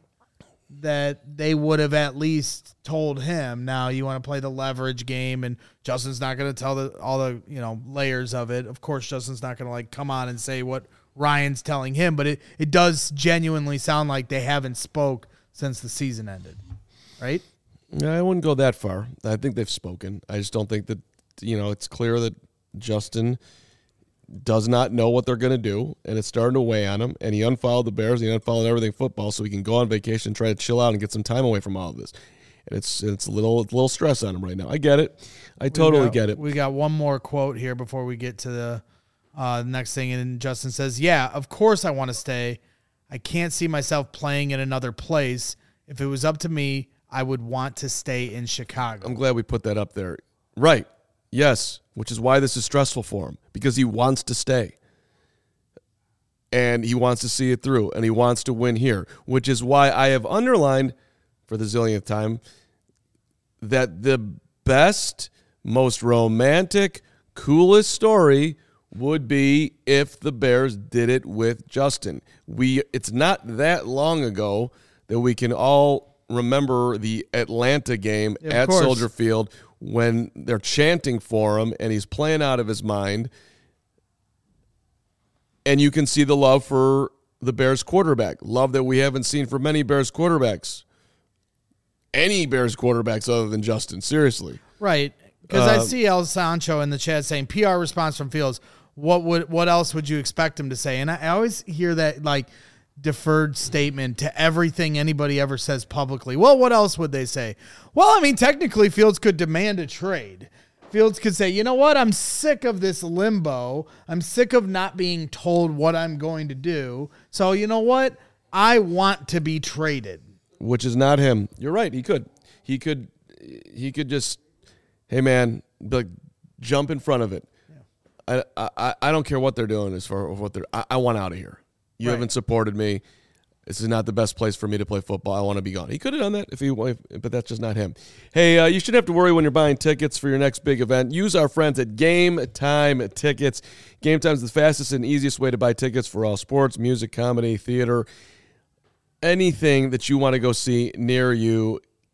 that they would have at least told him. Now you want to play the leverage game, and Justin's not going to tell the, all the, you know, layers of it. Of course, Justin's not going to like come on and say what Ryan's telling him, but it, it does genuinely sound like they haven't spoke since the season ended, right? I wouldn't go that far. I think they've spoken. I just don't think that, you know, it's clear that Justin does not know what they're going to do, and it's starting to weigh on him, and he unfollowed the Bears, and he unfollowed everything football so he can go on vacation and try to chill out and get some time away from all of this. And it's it's a little, it's a little stress on him right now. I get it. I totally got, get it. We got one more quote here before we get to the uh, next thing, and Justin says, yeah, of course I want to stay. I can't see myself playing in another place. If it was up to me, I would want to stay in Chicago. I'm glad we put that up there. Right. Yes, which is why this is stressful for him, because he wants to stay. And he wants to see it through, and he wants to win here, which is why I have underlined for the zillionth time that the best, most romantic, coolest story would be if the Bears did it with Justin. We it's not that long ago that we can all remember the Atlanta game Yeah, at course. Soldier Field when they're chanting for him and he's playing out of his mind. And you can see the love for the Bears quarterback, love that we haven't seen for many Bears quarterbacks. Any Bears quarterbacks other than Justin, seriously. Right. Because I Uh, see El Sancho in the chat saying P R response from Fields. What would what else would you expect him to say? And I, I always hear that like deferred statement to everything anybody ever says publicly. Well, what else would they say? Well, I mean, technically Fields could demand a trade. Fields could say, you know what? I'm sick of this limbo. I'm sick of not being told what I'm going to do. So you know what? I want to be traded. Which is not him. You're right. He could. He could. He could just, hey man, like jump in front of it. Yeah. I, I I don't care what they're doing as far as what they're. I, I want out of here. You Right. haven't supported me. This is not the best place for me to play football. I want to be gone. He could have done that if he, if, but that's just not him. Hey, uh, you shouldn't have to worry when you're buying tickets for your next big event. Use our friends at Game Time Tickets. Game Time is the fastest and easiest way to buy tickets for all sports, music, comedy, theater. Anything that you want to go see near you,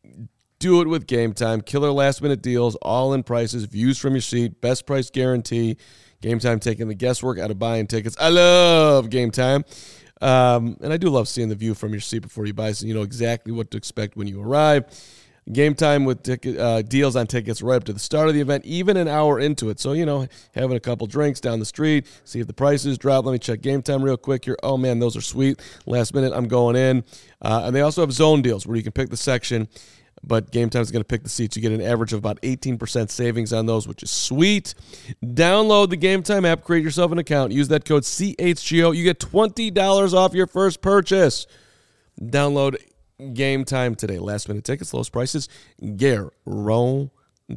do it with Game Time. Killer last-minute deals, all-in prices, views from your seat, best price guarantee. Game Time taking the guesswork out of buying tickets. I love Game Time. Um, and I do love seeing the view from your seat before you buy, so you know exactly what to expect when you arrive. Game Time with ticket, uh, deals on tickets right up to the start of the event, even an hour into it. So, you know, having a couple drinks down the street, see if the prices drop. Let me check Game Time real quick here. Oh, man, those are sweet. Last minute, I'm going in. Uh, and they also have zone deals where you can pick the section, but Game Time is going to pick the seats. You get an average of about eighteen percent savings on those, which is sweet. Download the Game Time app, create yourself an account, use that code C H G O. You get twenty dollars off your first purchase. Download Game Time today. Last minute tickets, lowest prices, guaranteed.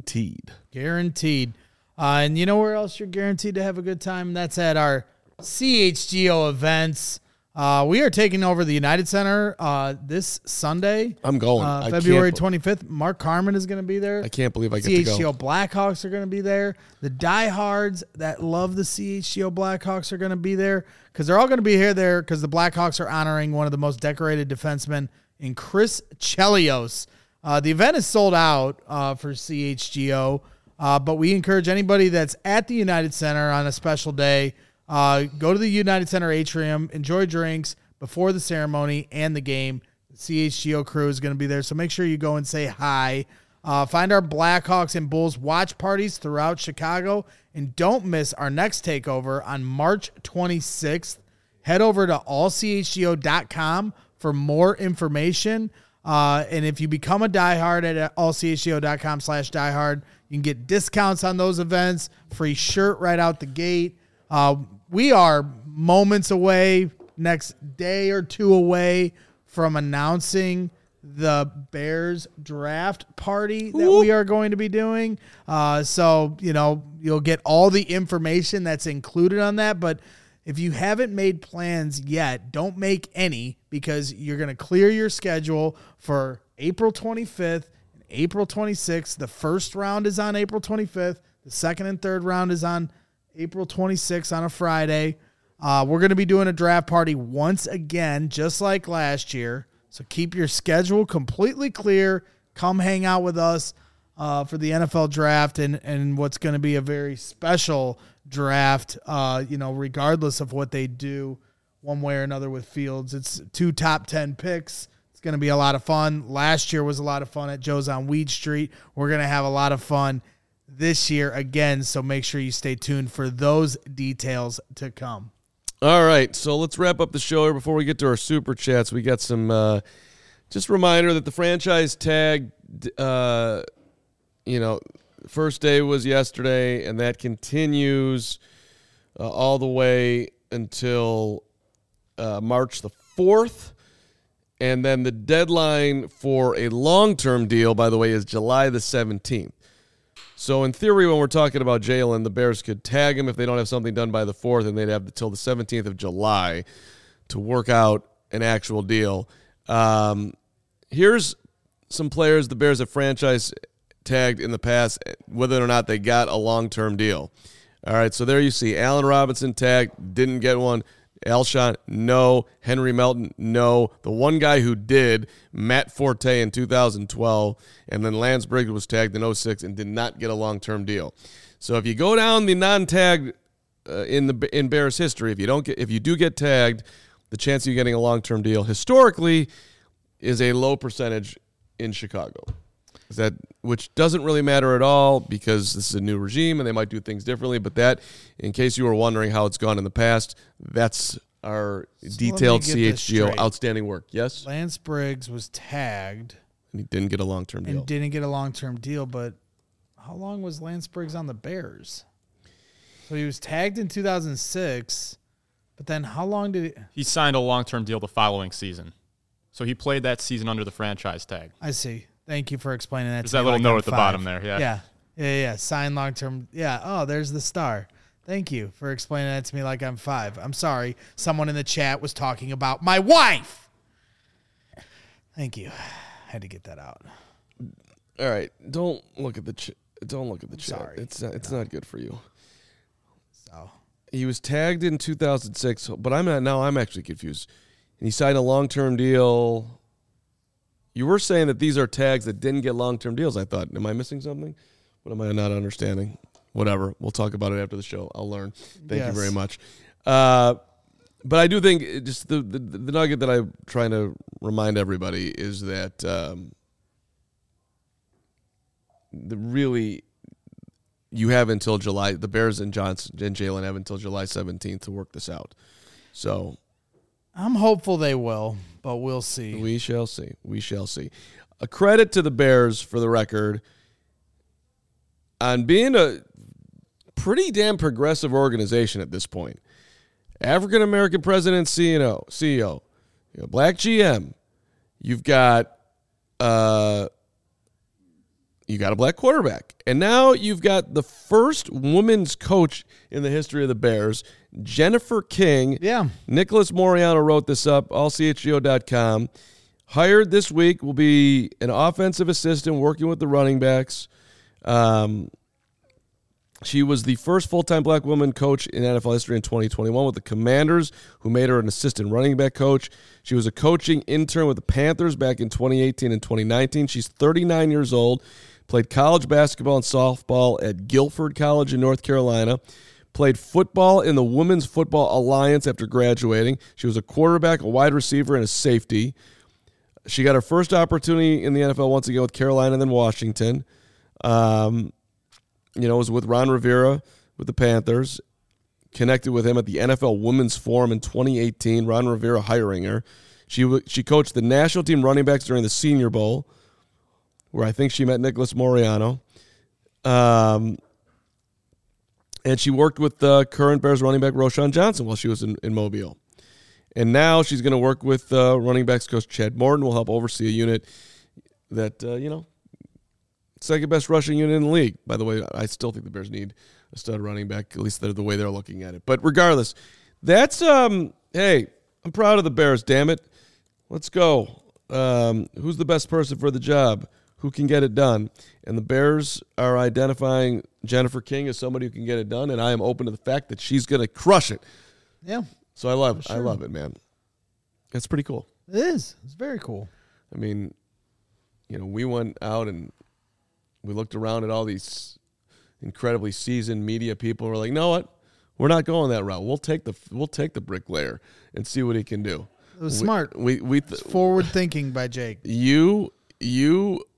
Guaranteed. Uh, and you know where else you're guaranteed to have a good time? That's at our C H G O events. Uh, we are taking over the United Center uh, this Sunday. I'm going. Uh, I February can't- twenty-fifth. Mark Carmen is going to be there. I can't believe I get C H to G O go. Blackhawks are going to be there. The diehards that love the C H G O Blackhawks are going to be there because they're all going to be here there because the Blackhawks are honoring one of the most decorated defensemen in Chris Chelios. Uh, the event is sold out uh, for C H G O, uh, but we encourage anybody that's at the United Center on a special day, uh, go to the United Center atrium, enjoy drinks before the ceremony and the game. The C H G O crew is going to be there, so make sure you go and say hi. Uh, find our Blackhawks and Bulls watch parties throughout Chicago, and don't miss our next takeover on March twenty-sixth. Head over to all c h g o dot com for more information. Uh, and if you become a diehard at all c h g o dot com slash diehard, you can get discounts on those events, free shirt right out the gate. Uh, we are moments away, next day or two away from announcing the Bears draft party that we are going to be doing. Uh, so, you know, you'll get all the information that's included on that. But if you haven't made plans yet, don't make any because you're going to clear your schedule for April twenty-fifth and April twenty-sixth. The first round is on April twenty-fifth. The second and third round is on April twenty-sixth on a Friday. Uh, we're going to be doing a draft party once again, just like last year. So keep your schedule completely clear. Come hang out with us uh, for the N F L draft and, and what's going to be a very special draft, uh, you know, regardless of what they do one way or another with Fields. It's two top ten picks. It's going to be a lot of fun. Last year was a lot of fun at Joe's on Weed Street. We're going to have a lot of fun this year again. So make sure you stay tuned for those details to come. All right, so let's wrap up the show here before we get to our super chats. We got some, uh, just a reminder that the franchise tag, uh, you know, first day was yesterday, and that continues uh, all the way until uh, March the fourth. And then the deadline for a long-term deal, by the way, is July the seventeenth. So in theory, when we're talking about Jalen, the Bears could tag him if they don't have something done by the fourth, and they'd have until the seventeenth of July to work out an actual deal. Um, here's some players the Bears have franchise tagged in the past, whether or not they got a long-term deal. All right, so there you see Allen Robinson tagged, didn't get one. Alshon, no. Henry Melton, no. The one guy who did, Matt Forte in two thousand twelve, and then Lance Briggs was tagged in oh six and did not get a long-term deal. So if you go down the non-tagged uh, in the in Bears history, if you don't get, if you do get tagged, the chance of you getting a long-term deal historically is a low percentage in Chicago. Is that which doesn't really matter at all because this is a new regime and they might do things differently. But that, in case you were wondering how it's gone in the past, that's our So detailed let me C get H this G O straight. outstanding work. Yes, Lance Briggs was tagged and he didn't get a long-term deal. and didn't get a long-term deal, but how long was Lance Briggs on the Bears? So he was tagged in two thousand six, but then how long did it? He signed a long-term deal the following season. So he played that season under the franchise tag. I see. Thank you for explaining that. There's to that me little like note I'm at the five. bottom there, yeah. Yeah. Yeah, yeah. Sign long-term. Yeah. Oh, there's the star. Thank you for explaining that to me like I'm five. I'm sorry. Someone in the chat was talking about my wife. Thank you. Had to get that out. All right, don't look at the ch- don't look at the chat. sorry. It's not, it's not good for you. So He was tagged in two thousand six, but I'm not now. I'm actually confused. And he signed a long-term deal. You were saying that these are tags that didn't get long-term deals. I thought, am I missing something? What am I not understanding? Whatever. We'll talk about it after the show. I'll learn. Thank Yes. you very much. Uh, but I do think it just the, the the nugget that I'm trying to remind everybody is that um, the really you have until July. The Bears and Johnson and Jalen have until July seventeenth to work this out. So I'm hopeful they will, but we'll see. we shall see. We shall see. A credit to the Bears for the record on being a pretty damn progressive organization at this point. African American president, C E O, C E O, you know, black G M. You've got uh, you got a black quarterback, and now you've got the first women's coach in the history of the Bears, Jennifer King. Yeah. Nicholas Moriano wrote this up, all C H G O dot com. Hired this week will be an offensive assistant working with the running backs. Um, she was the first full-time black woman coach in N F L history in twenty twenty-one with the Commanders, who made her an assistant running back coach. She was a coaching intern with the Panthers back in twenty eighteen and twenty nineteen. She's thirty-nine years old, played college basketball and softball at Guilford College in North Carolina, played football in the Women's Football Alliance after graduating. She was a quarterback, a wide receiver, and a safety. She got her first opportunity in the N F L once again with Carolina and then Washington. Um, you know, it was with Ron Rivera with the Panthers. Connected with him at the N F L Women's Forum in twenty eighteen. Ron Rivera hiring her. She w- she coached the national team running backs during the Senior Bowl, where I think she met Nicholas Moriano. Um, and she worked with the current Bears running back Roschon Johnson while she was in, in Mobile. And now she's going to work with uh, running backs coach Chad Morton, will help oversee a unit that, uh, you know, second best rushing unit in the league. By the way, I still think the Bears need a stud running back, at least they're the way they're looking at it. But regardless, that's, um, hey, I'm proud of the Bears, damn it. Let's go. Um, who's the best person for the job? Who can get it done? And the Bears are identifying Jennifer King as somebody who can get it done, and I am open to the fact that she's going to crush it. Yeah, So I love For I sure. love it, man. It's pretty cool. it is. It's very cool. I mean, you know, we went out and we looked around at all these incredibly seasoned media people. We're like, you know what? We're not going that route. We'll take the we'll take the bricklayer and see what he can do. It was We- smart. We we th- Forward thinking by Jake. you you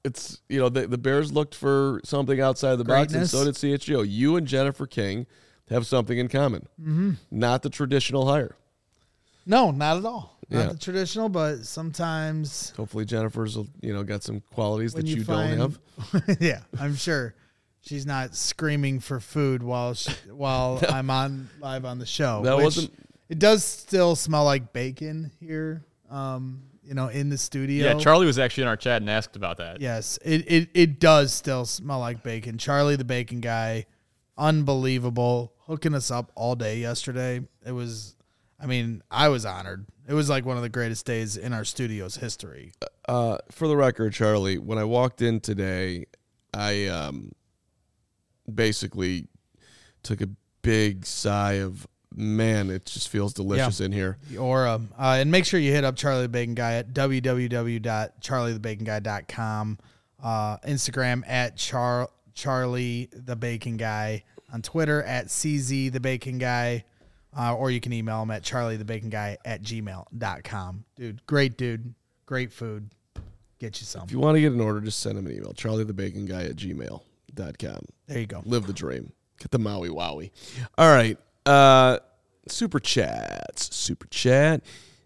it's, you know, the, the Bears looked for something outside the box, and Greatness. so did C H G O. You and Jennifer King have something in common. Mm-hmm. Not the traditional hire. No, not at all. Not Yeah. the traditional, but sometimes Hopefully Jennifer's, you know, got some qualities when that you, you, don't find, have. yeah, I'm sure she's not screaming for food while she, while I'm on live on the show. That which wasn't- It does still smell like bacon here. Um, you know, in the studio. Yeah, Charlie was actually in our chat and asked about that. Yes, it, it it does still smell like bacon. Charlie, the bacon guy, unbelievable, hooking us up all day yesterday. It was, I mean, I was honored. It was like one of the greatest days in our studio's history. Uh, for the record, Charlie, when I walked in today, I um, basically took a big sigh of, man, it just feels delicious in here. The aura. Uh, and make sure you hit up Charlie the Bacon Guy at w w w dot charlie the bacon guy dot com. Uh, Instagram at Char- Charlie the Bacon Guy. On Twitter at C Z the Bacon Guy. Uh, or you can email him at charlie the bacon guy at gmail dot com. Dude, great dude. Great food. Get you some. If you want to get an order, just send him an email, charlie the bacon guy at gmail dot com. There you go. Live the dream. Get the Maui Wowie. All right. Uh, super chats. Super chat.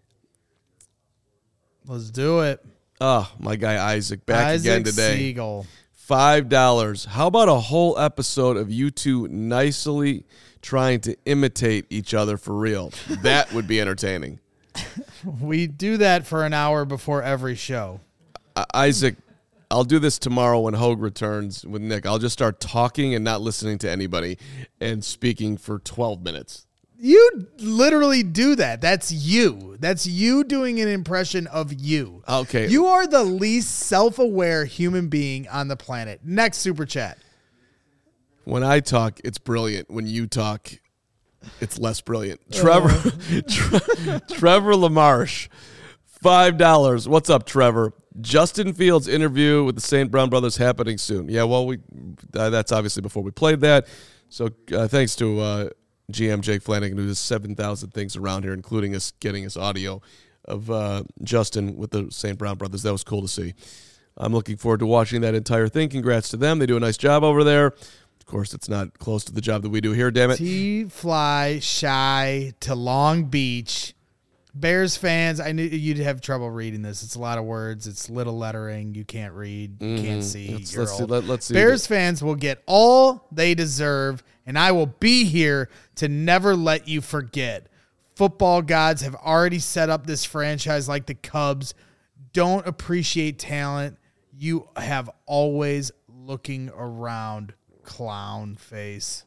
Let's do it. Oh, my guy Isaac back Isaac again today. Siegel. Five dollars. How about a whole episode of you two nicely trying to imitate each other for real? That would be entertaining. We do that for an hour before every show. Uh, Isaac, I'll do this tomorrow when Hogue returns with Nick. I'll just start talking and not listening to anybody and speaking for twelve minutes. You literally do that. That's you. That's you doing an impression of you. Okay. You are the least self-aware human being on the planet. Next super chat. When I talk, it's brilliant. When you talk, it's less brilliant. Trevor Tre- Trevor LaMarche, five dollars. What's up, Trevor? Justin Fields' interview with the Saint Brown brothers happening soon. Yeah, well, we uh, that's obviously before we played that. So uh, thanks to uh, G M Jake Flanagan, who does seven thousand things around here, including us getting us audio of uh, Justin with the Saint Brown brothers. That was cool to see. I'm looking forward to watching that entire thing. Congrats to them. They do a nice job over there. Of course, it's not close to the job that we do here, damn it. T-fly shy to Long Beach. Bears fans, I knew you'd have trouble reading this. It's a lot of words. It's little lettering. You can't read. You can't see. Let's, You're let's, see, old. let, let's see. Bears fans will get all they deserve, and I will be here to never let you forget. Football gods have already set up this franchise like the Cubs. Don't appreciate talent. You have always looking around, clown face.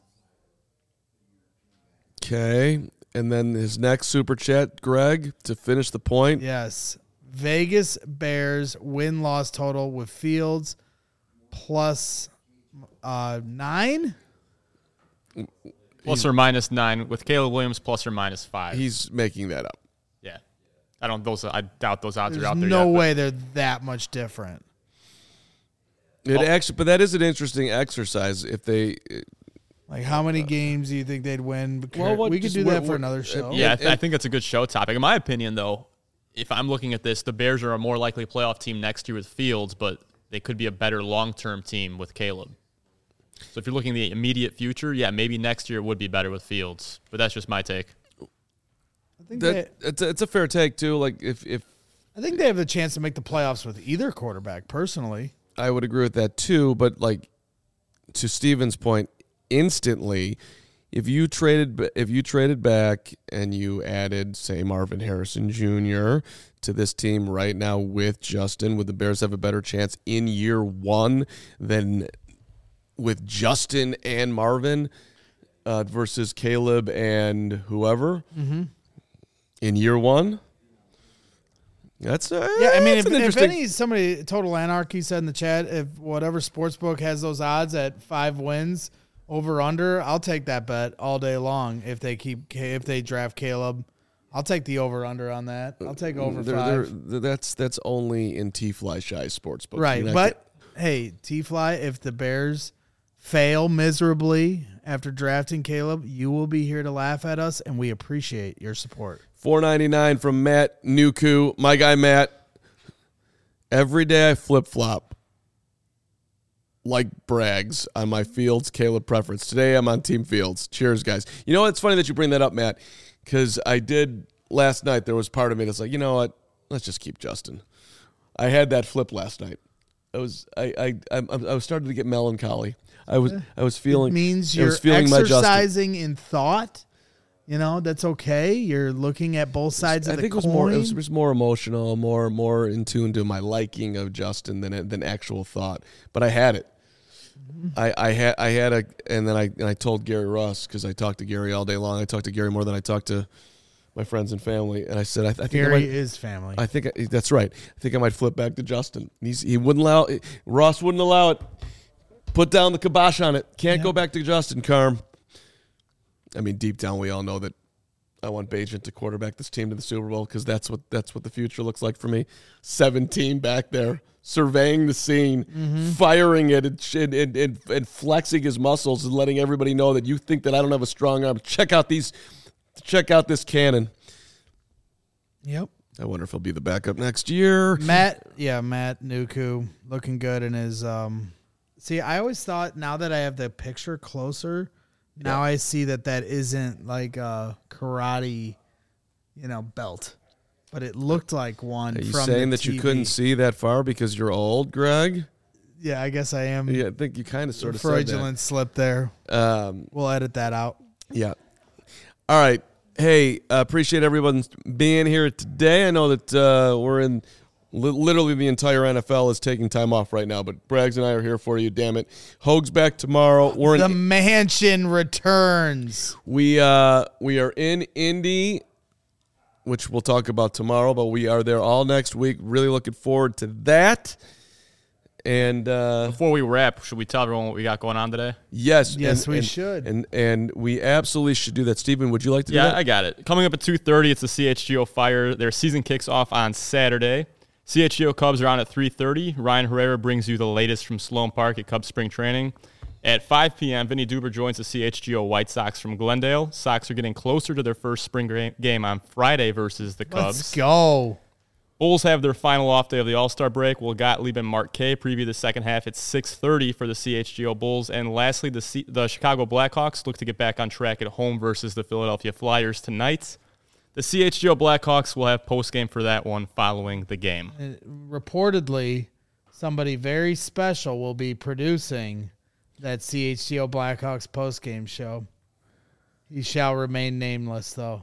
Okay. And then his next super chat, Greg, to finish the point. Yes. Vegas Bears win-loss total with Fields plus uh, nine? Plus or minus nine with Caleb Williams, plus or minus five. He's making that up. yeah, I don't. Those I doubt those odds There's are out there. no yet, but- way they're that much different. It Oh. actually, but that is an interesting exercise. If they, Like, how many games do you think they'd win? Because Well, what- we could just do what- that for what- another show. Yeah, I, And- th- I and- think that's a good show topic. In my opinion, though, if I'm looking at this, the Bears are a more likely playoff team next year with Fields, but they could be a better long-term team with Caleb. So if you're looking at the immediate future, yeah, maybe next year would be better with Fields. But that's just my take. I think that they, it's a, it's a fair take too. Like if if I think they have the chance to make the playoffs with either quarterback. Personally, I would agree with that too. But like to Steven's point, instantly, if you traded ba- if you traded back and you added, say, Marvin Harrison Junior to this team right now with Justin, would the Bears have a better chance in year one than with Justin and Marvin uh, versus Caleb and whoever mm-hmm. in year one? That's uh, yeah. I mean, that's if, an if interesting. any somebody Total Anarchy said in the chat, if whatever sportsbook has those odds at five wins over under, I'll take that bet all day long. If they keep if they draft Caleb, I'll take the over under on that. I'll take over They're- five. they're- that's that's only in T-Fly Shy Sportsbook. Right, You're not but hey, T-Fly, if the Bears fail miserably after drafting Caleb, you will be here to laugh at us, and we appreciate your support. four ninety-nine from Matt Nuku, my guy Matt. Every day I flip flop. like Braggs on my Fields Caleb preference. Today I'm on Team Fields. Cheers, guys. You know what? It's funny that you bring that up, Matt, because I did last night. There was part of me that's like, you know what? Let's just keep Justin. I had that flip last night. I was I I I, I was starting to get melancholy. I was I was feeling. It means I you're was feeling my exercising in thought. You know, that's okay. You're looking at both sides I of the think coin. it was more. It was, it was more emotional, more more in tune to my liking of Justin than than actual thought. But I had it. I, I had I had a and then I and I told Gary Ross because I talked to Gary all day long. I talked to Gary more than I talked to my friends and family. And I said, I, th- I think Gary I might, is family. I think I, that's right. I think I might flip back to Justin. He's, he wouldn't allow Ross wouldn't allow it. Put down the kibosh on it. Can't Yeah. go back to Justin, Carm. I mean, deep down, we all know that I want Bagent to quarterback this team to the Super Bowl because that's what that's what the future looks like for me. seventeen back there, surveying the scene, Mm-hmm. firing it, and, and, and, and flexing his muscles and letting everybody know that you think that I don't have a strong arm. Check out these, check out this cannon. Yep. I wonder if he'll be the backup next year. Matt, yeah, Matt Nuku looking good in his. Um, see, I always thought now that I have the picture closer, now I see that that isn't like a karate, you know, belt, but it looked like one. Are you from saying the that you T V. couldn't see that far because you're old, Greg? Yeah, I guess I am. Yeah, I think you kind of sort of said fraudulent slip there. that. Um, We'll edit that out. Yeah. All right. Hey, uh, appreciate everyone being here today. I know that uh, we're in li- literally the entire N F L is taking time off right now, but Braggs and I are here for you. Damn it, Hoag's back tomorrow. We're The in. mansion returns. We uh we are in Indy, which we'll talk about tomorrow, but we are there all next week. Really looking forward to that. And uh, Before we wrap, should we tell everyone what we got going on today? yes, Yes, and- we and- should. and and we absolutely should do that. Stephen, would you like to do Yeah, that? I got it. Coming up at two thirty, it's the C H G O Fire. Their season kicks off on Saturday. C H G O Cubs are on at three thirty. Ryan Herrera brings you the latest from Sloan Park at Cubs spring training. At five p.m., Vinny Duber joins the C H G O White Sox from Glendale. Sox are getting closer to their first spring gra- game on Friday versus the Cubs. Let's go. Bulls have their final off day of the All-Star break. Will Gottlieb and Mark K preview the second half at six thirty for the C H G O Bulls. And lastly, the C- the Chicago Blackhawks look to get back on track at home versus the Philadelphia Flyers tonight. The C H G O Blackhawks will have postgame for that one following the game. Uh, reportedly, somebody very special will be producing that C H G O Blackhawks postgame show. He shall remain nameless, though.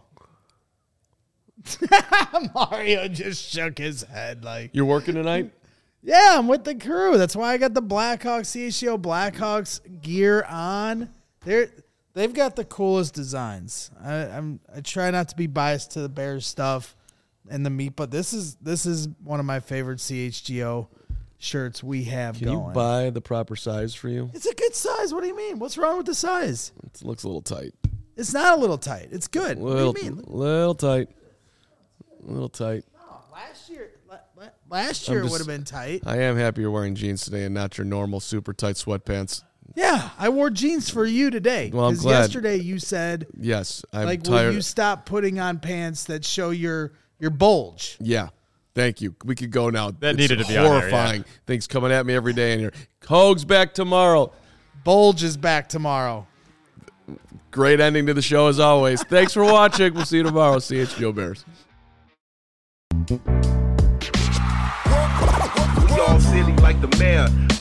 Mario just shook his head like, You're working tonight? yeah, I'm with the crew. That's why I got the Blackhawks, C H G O Blackhawks gear on. They're, they've got the coolest designs. I, I'm, I try not to be biased to the Bears stuff and the meat, but this is this is one of my favorite C H G O shirts we have Can going. you buy the proper size for you? It's a good size. What do you mean? What's wrong with the size? It looks a little tight. It's not a little tight. It's good. Little, what do you mean? little tight. A little tight. Oh, last year, la- la- last year I'm it would just- have been tight. I am happy you're wearing jeans today and not your normal super tight sweatpants. Yeah, I wore jeans for you today. Well, I'm Because glad. yesterday you said, Yes, I'm like, tired. will you stop putting on pants that show your your bulge? Yeah. Thank you. We could go now. That It's needed to be on there, yeah. horrifying. Things coming at me every day, and you're Hoag's back tomorrow. Bulge is back tomorrow. Great ending to the show as always. Thanks for watching. We'll see you tomorrow. C H G O Bears. We all silly like the mayor.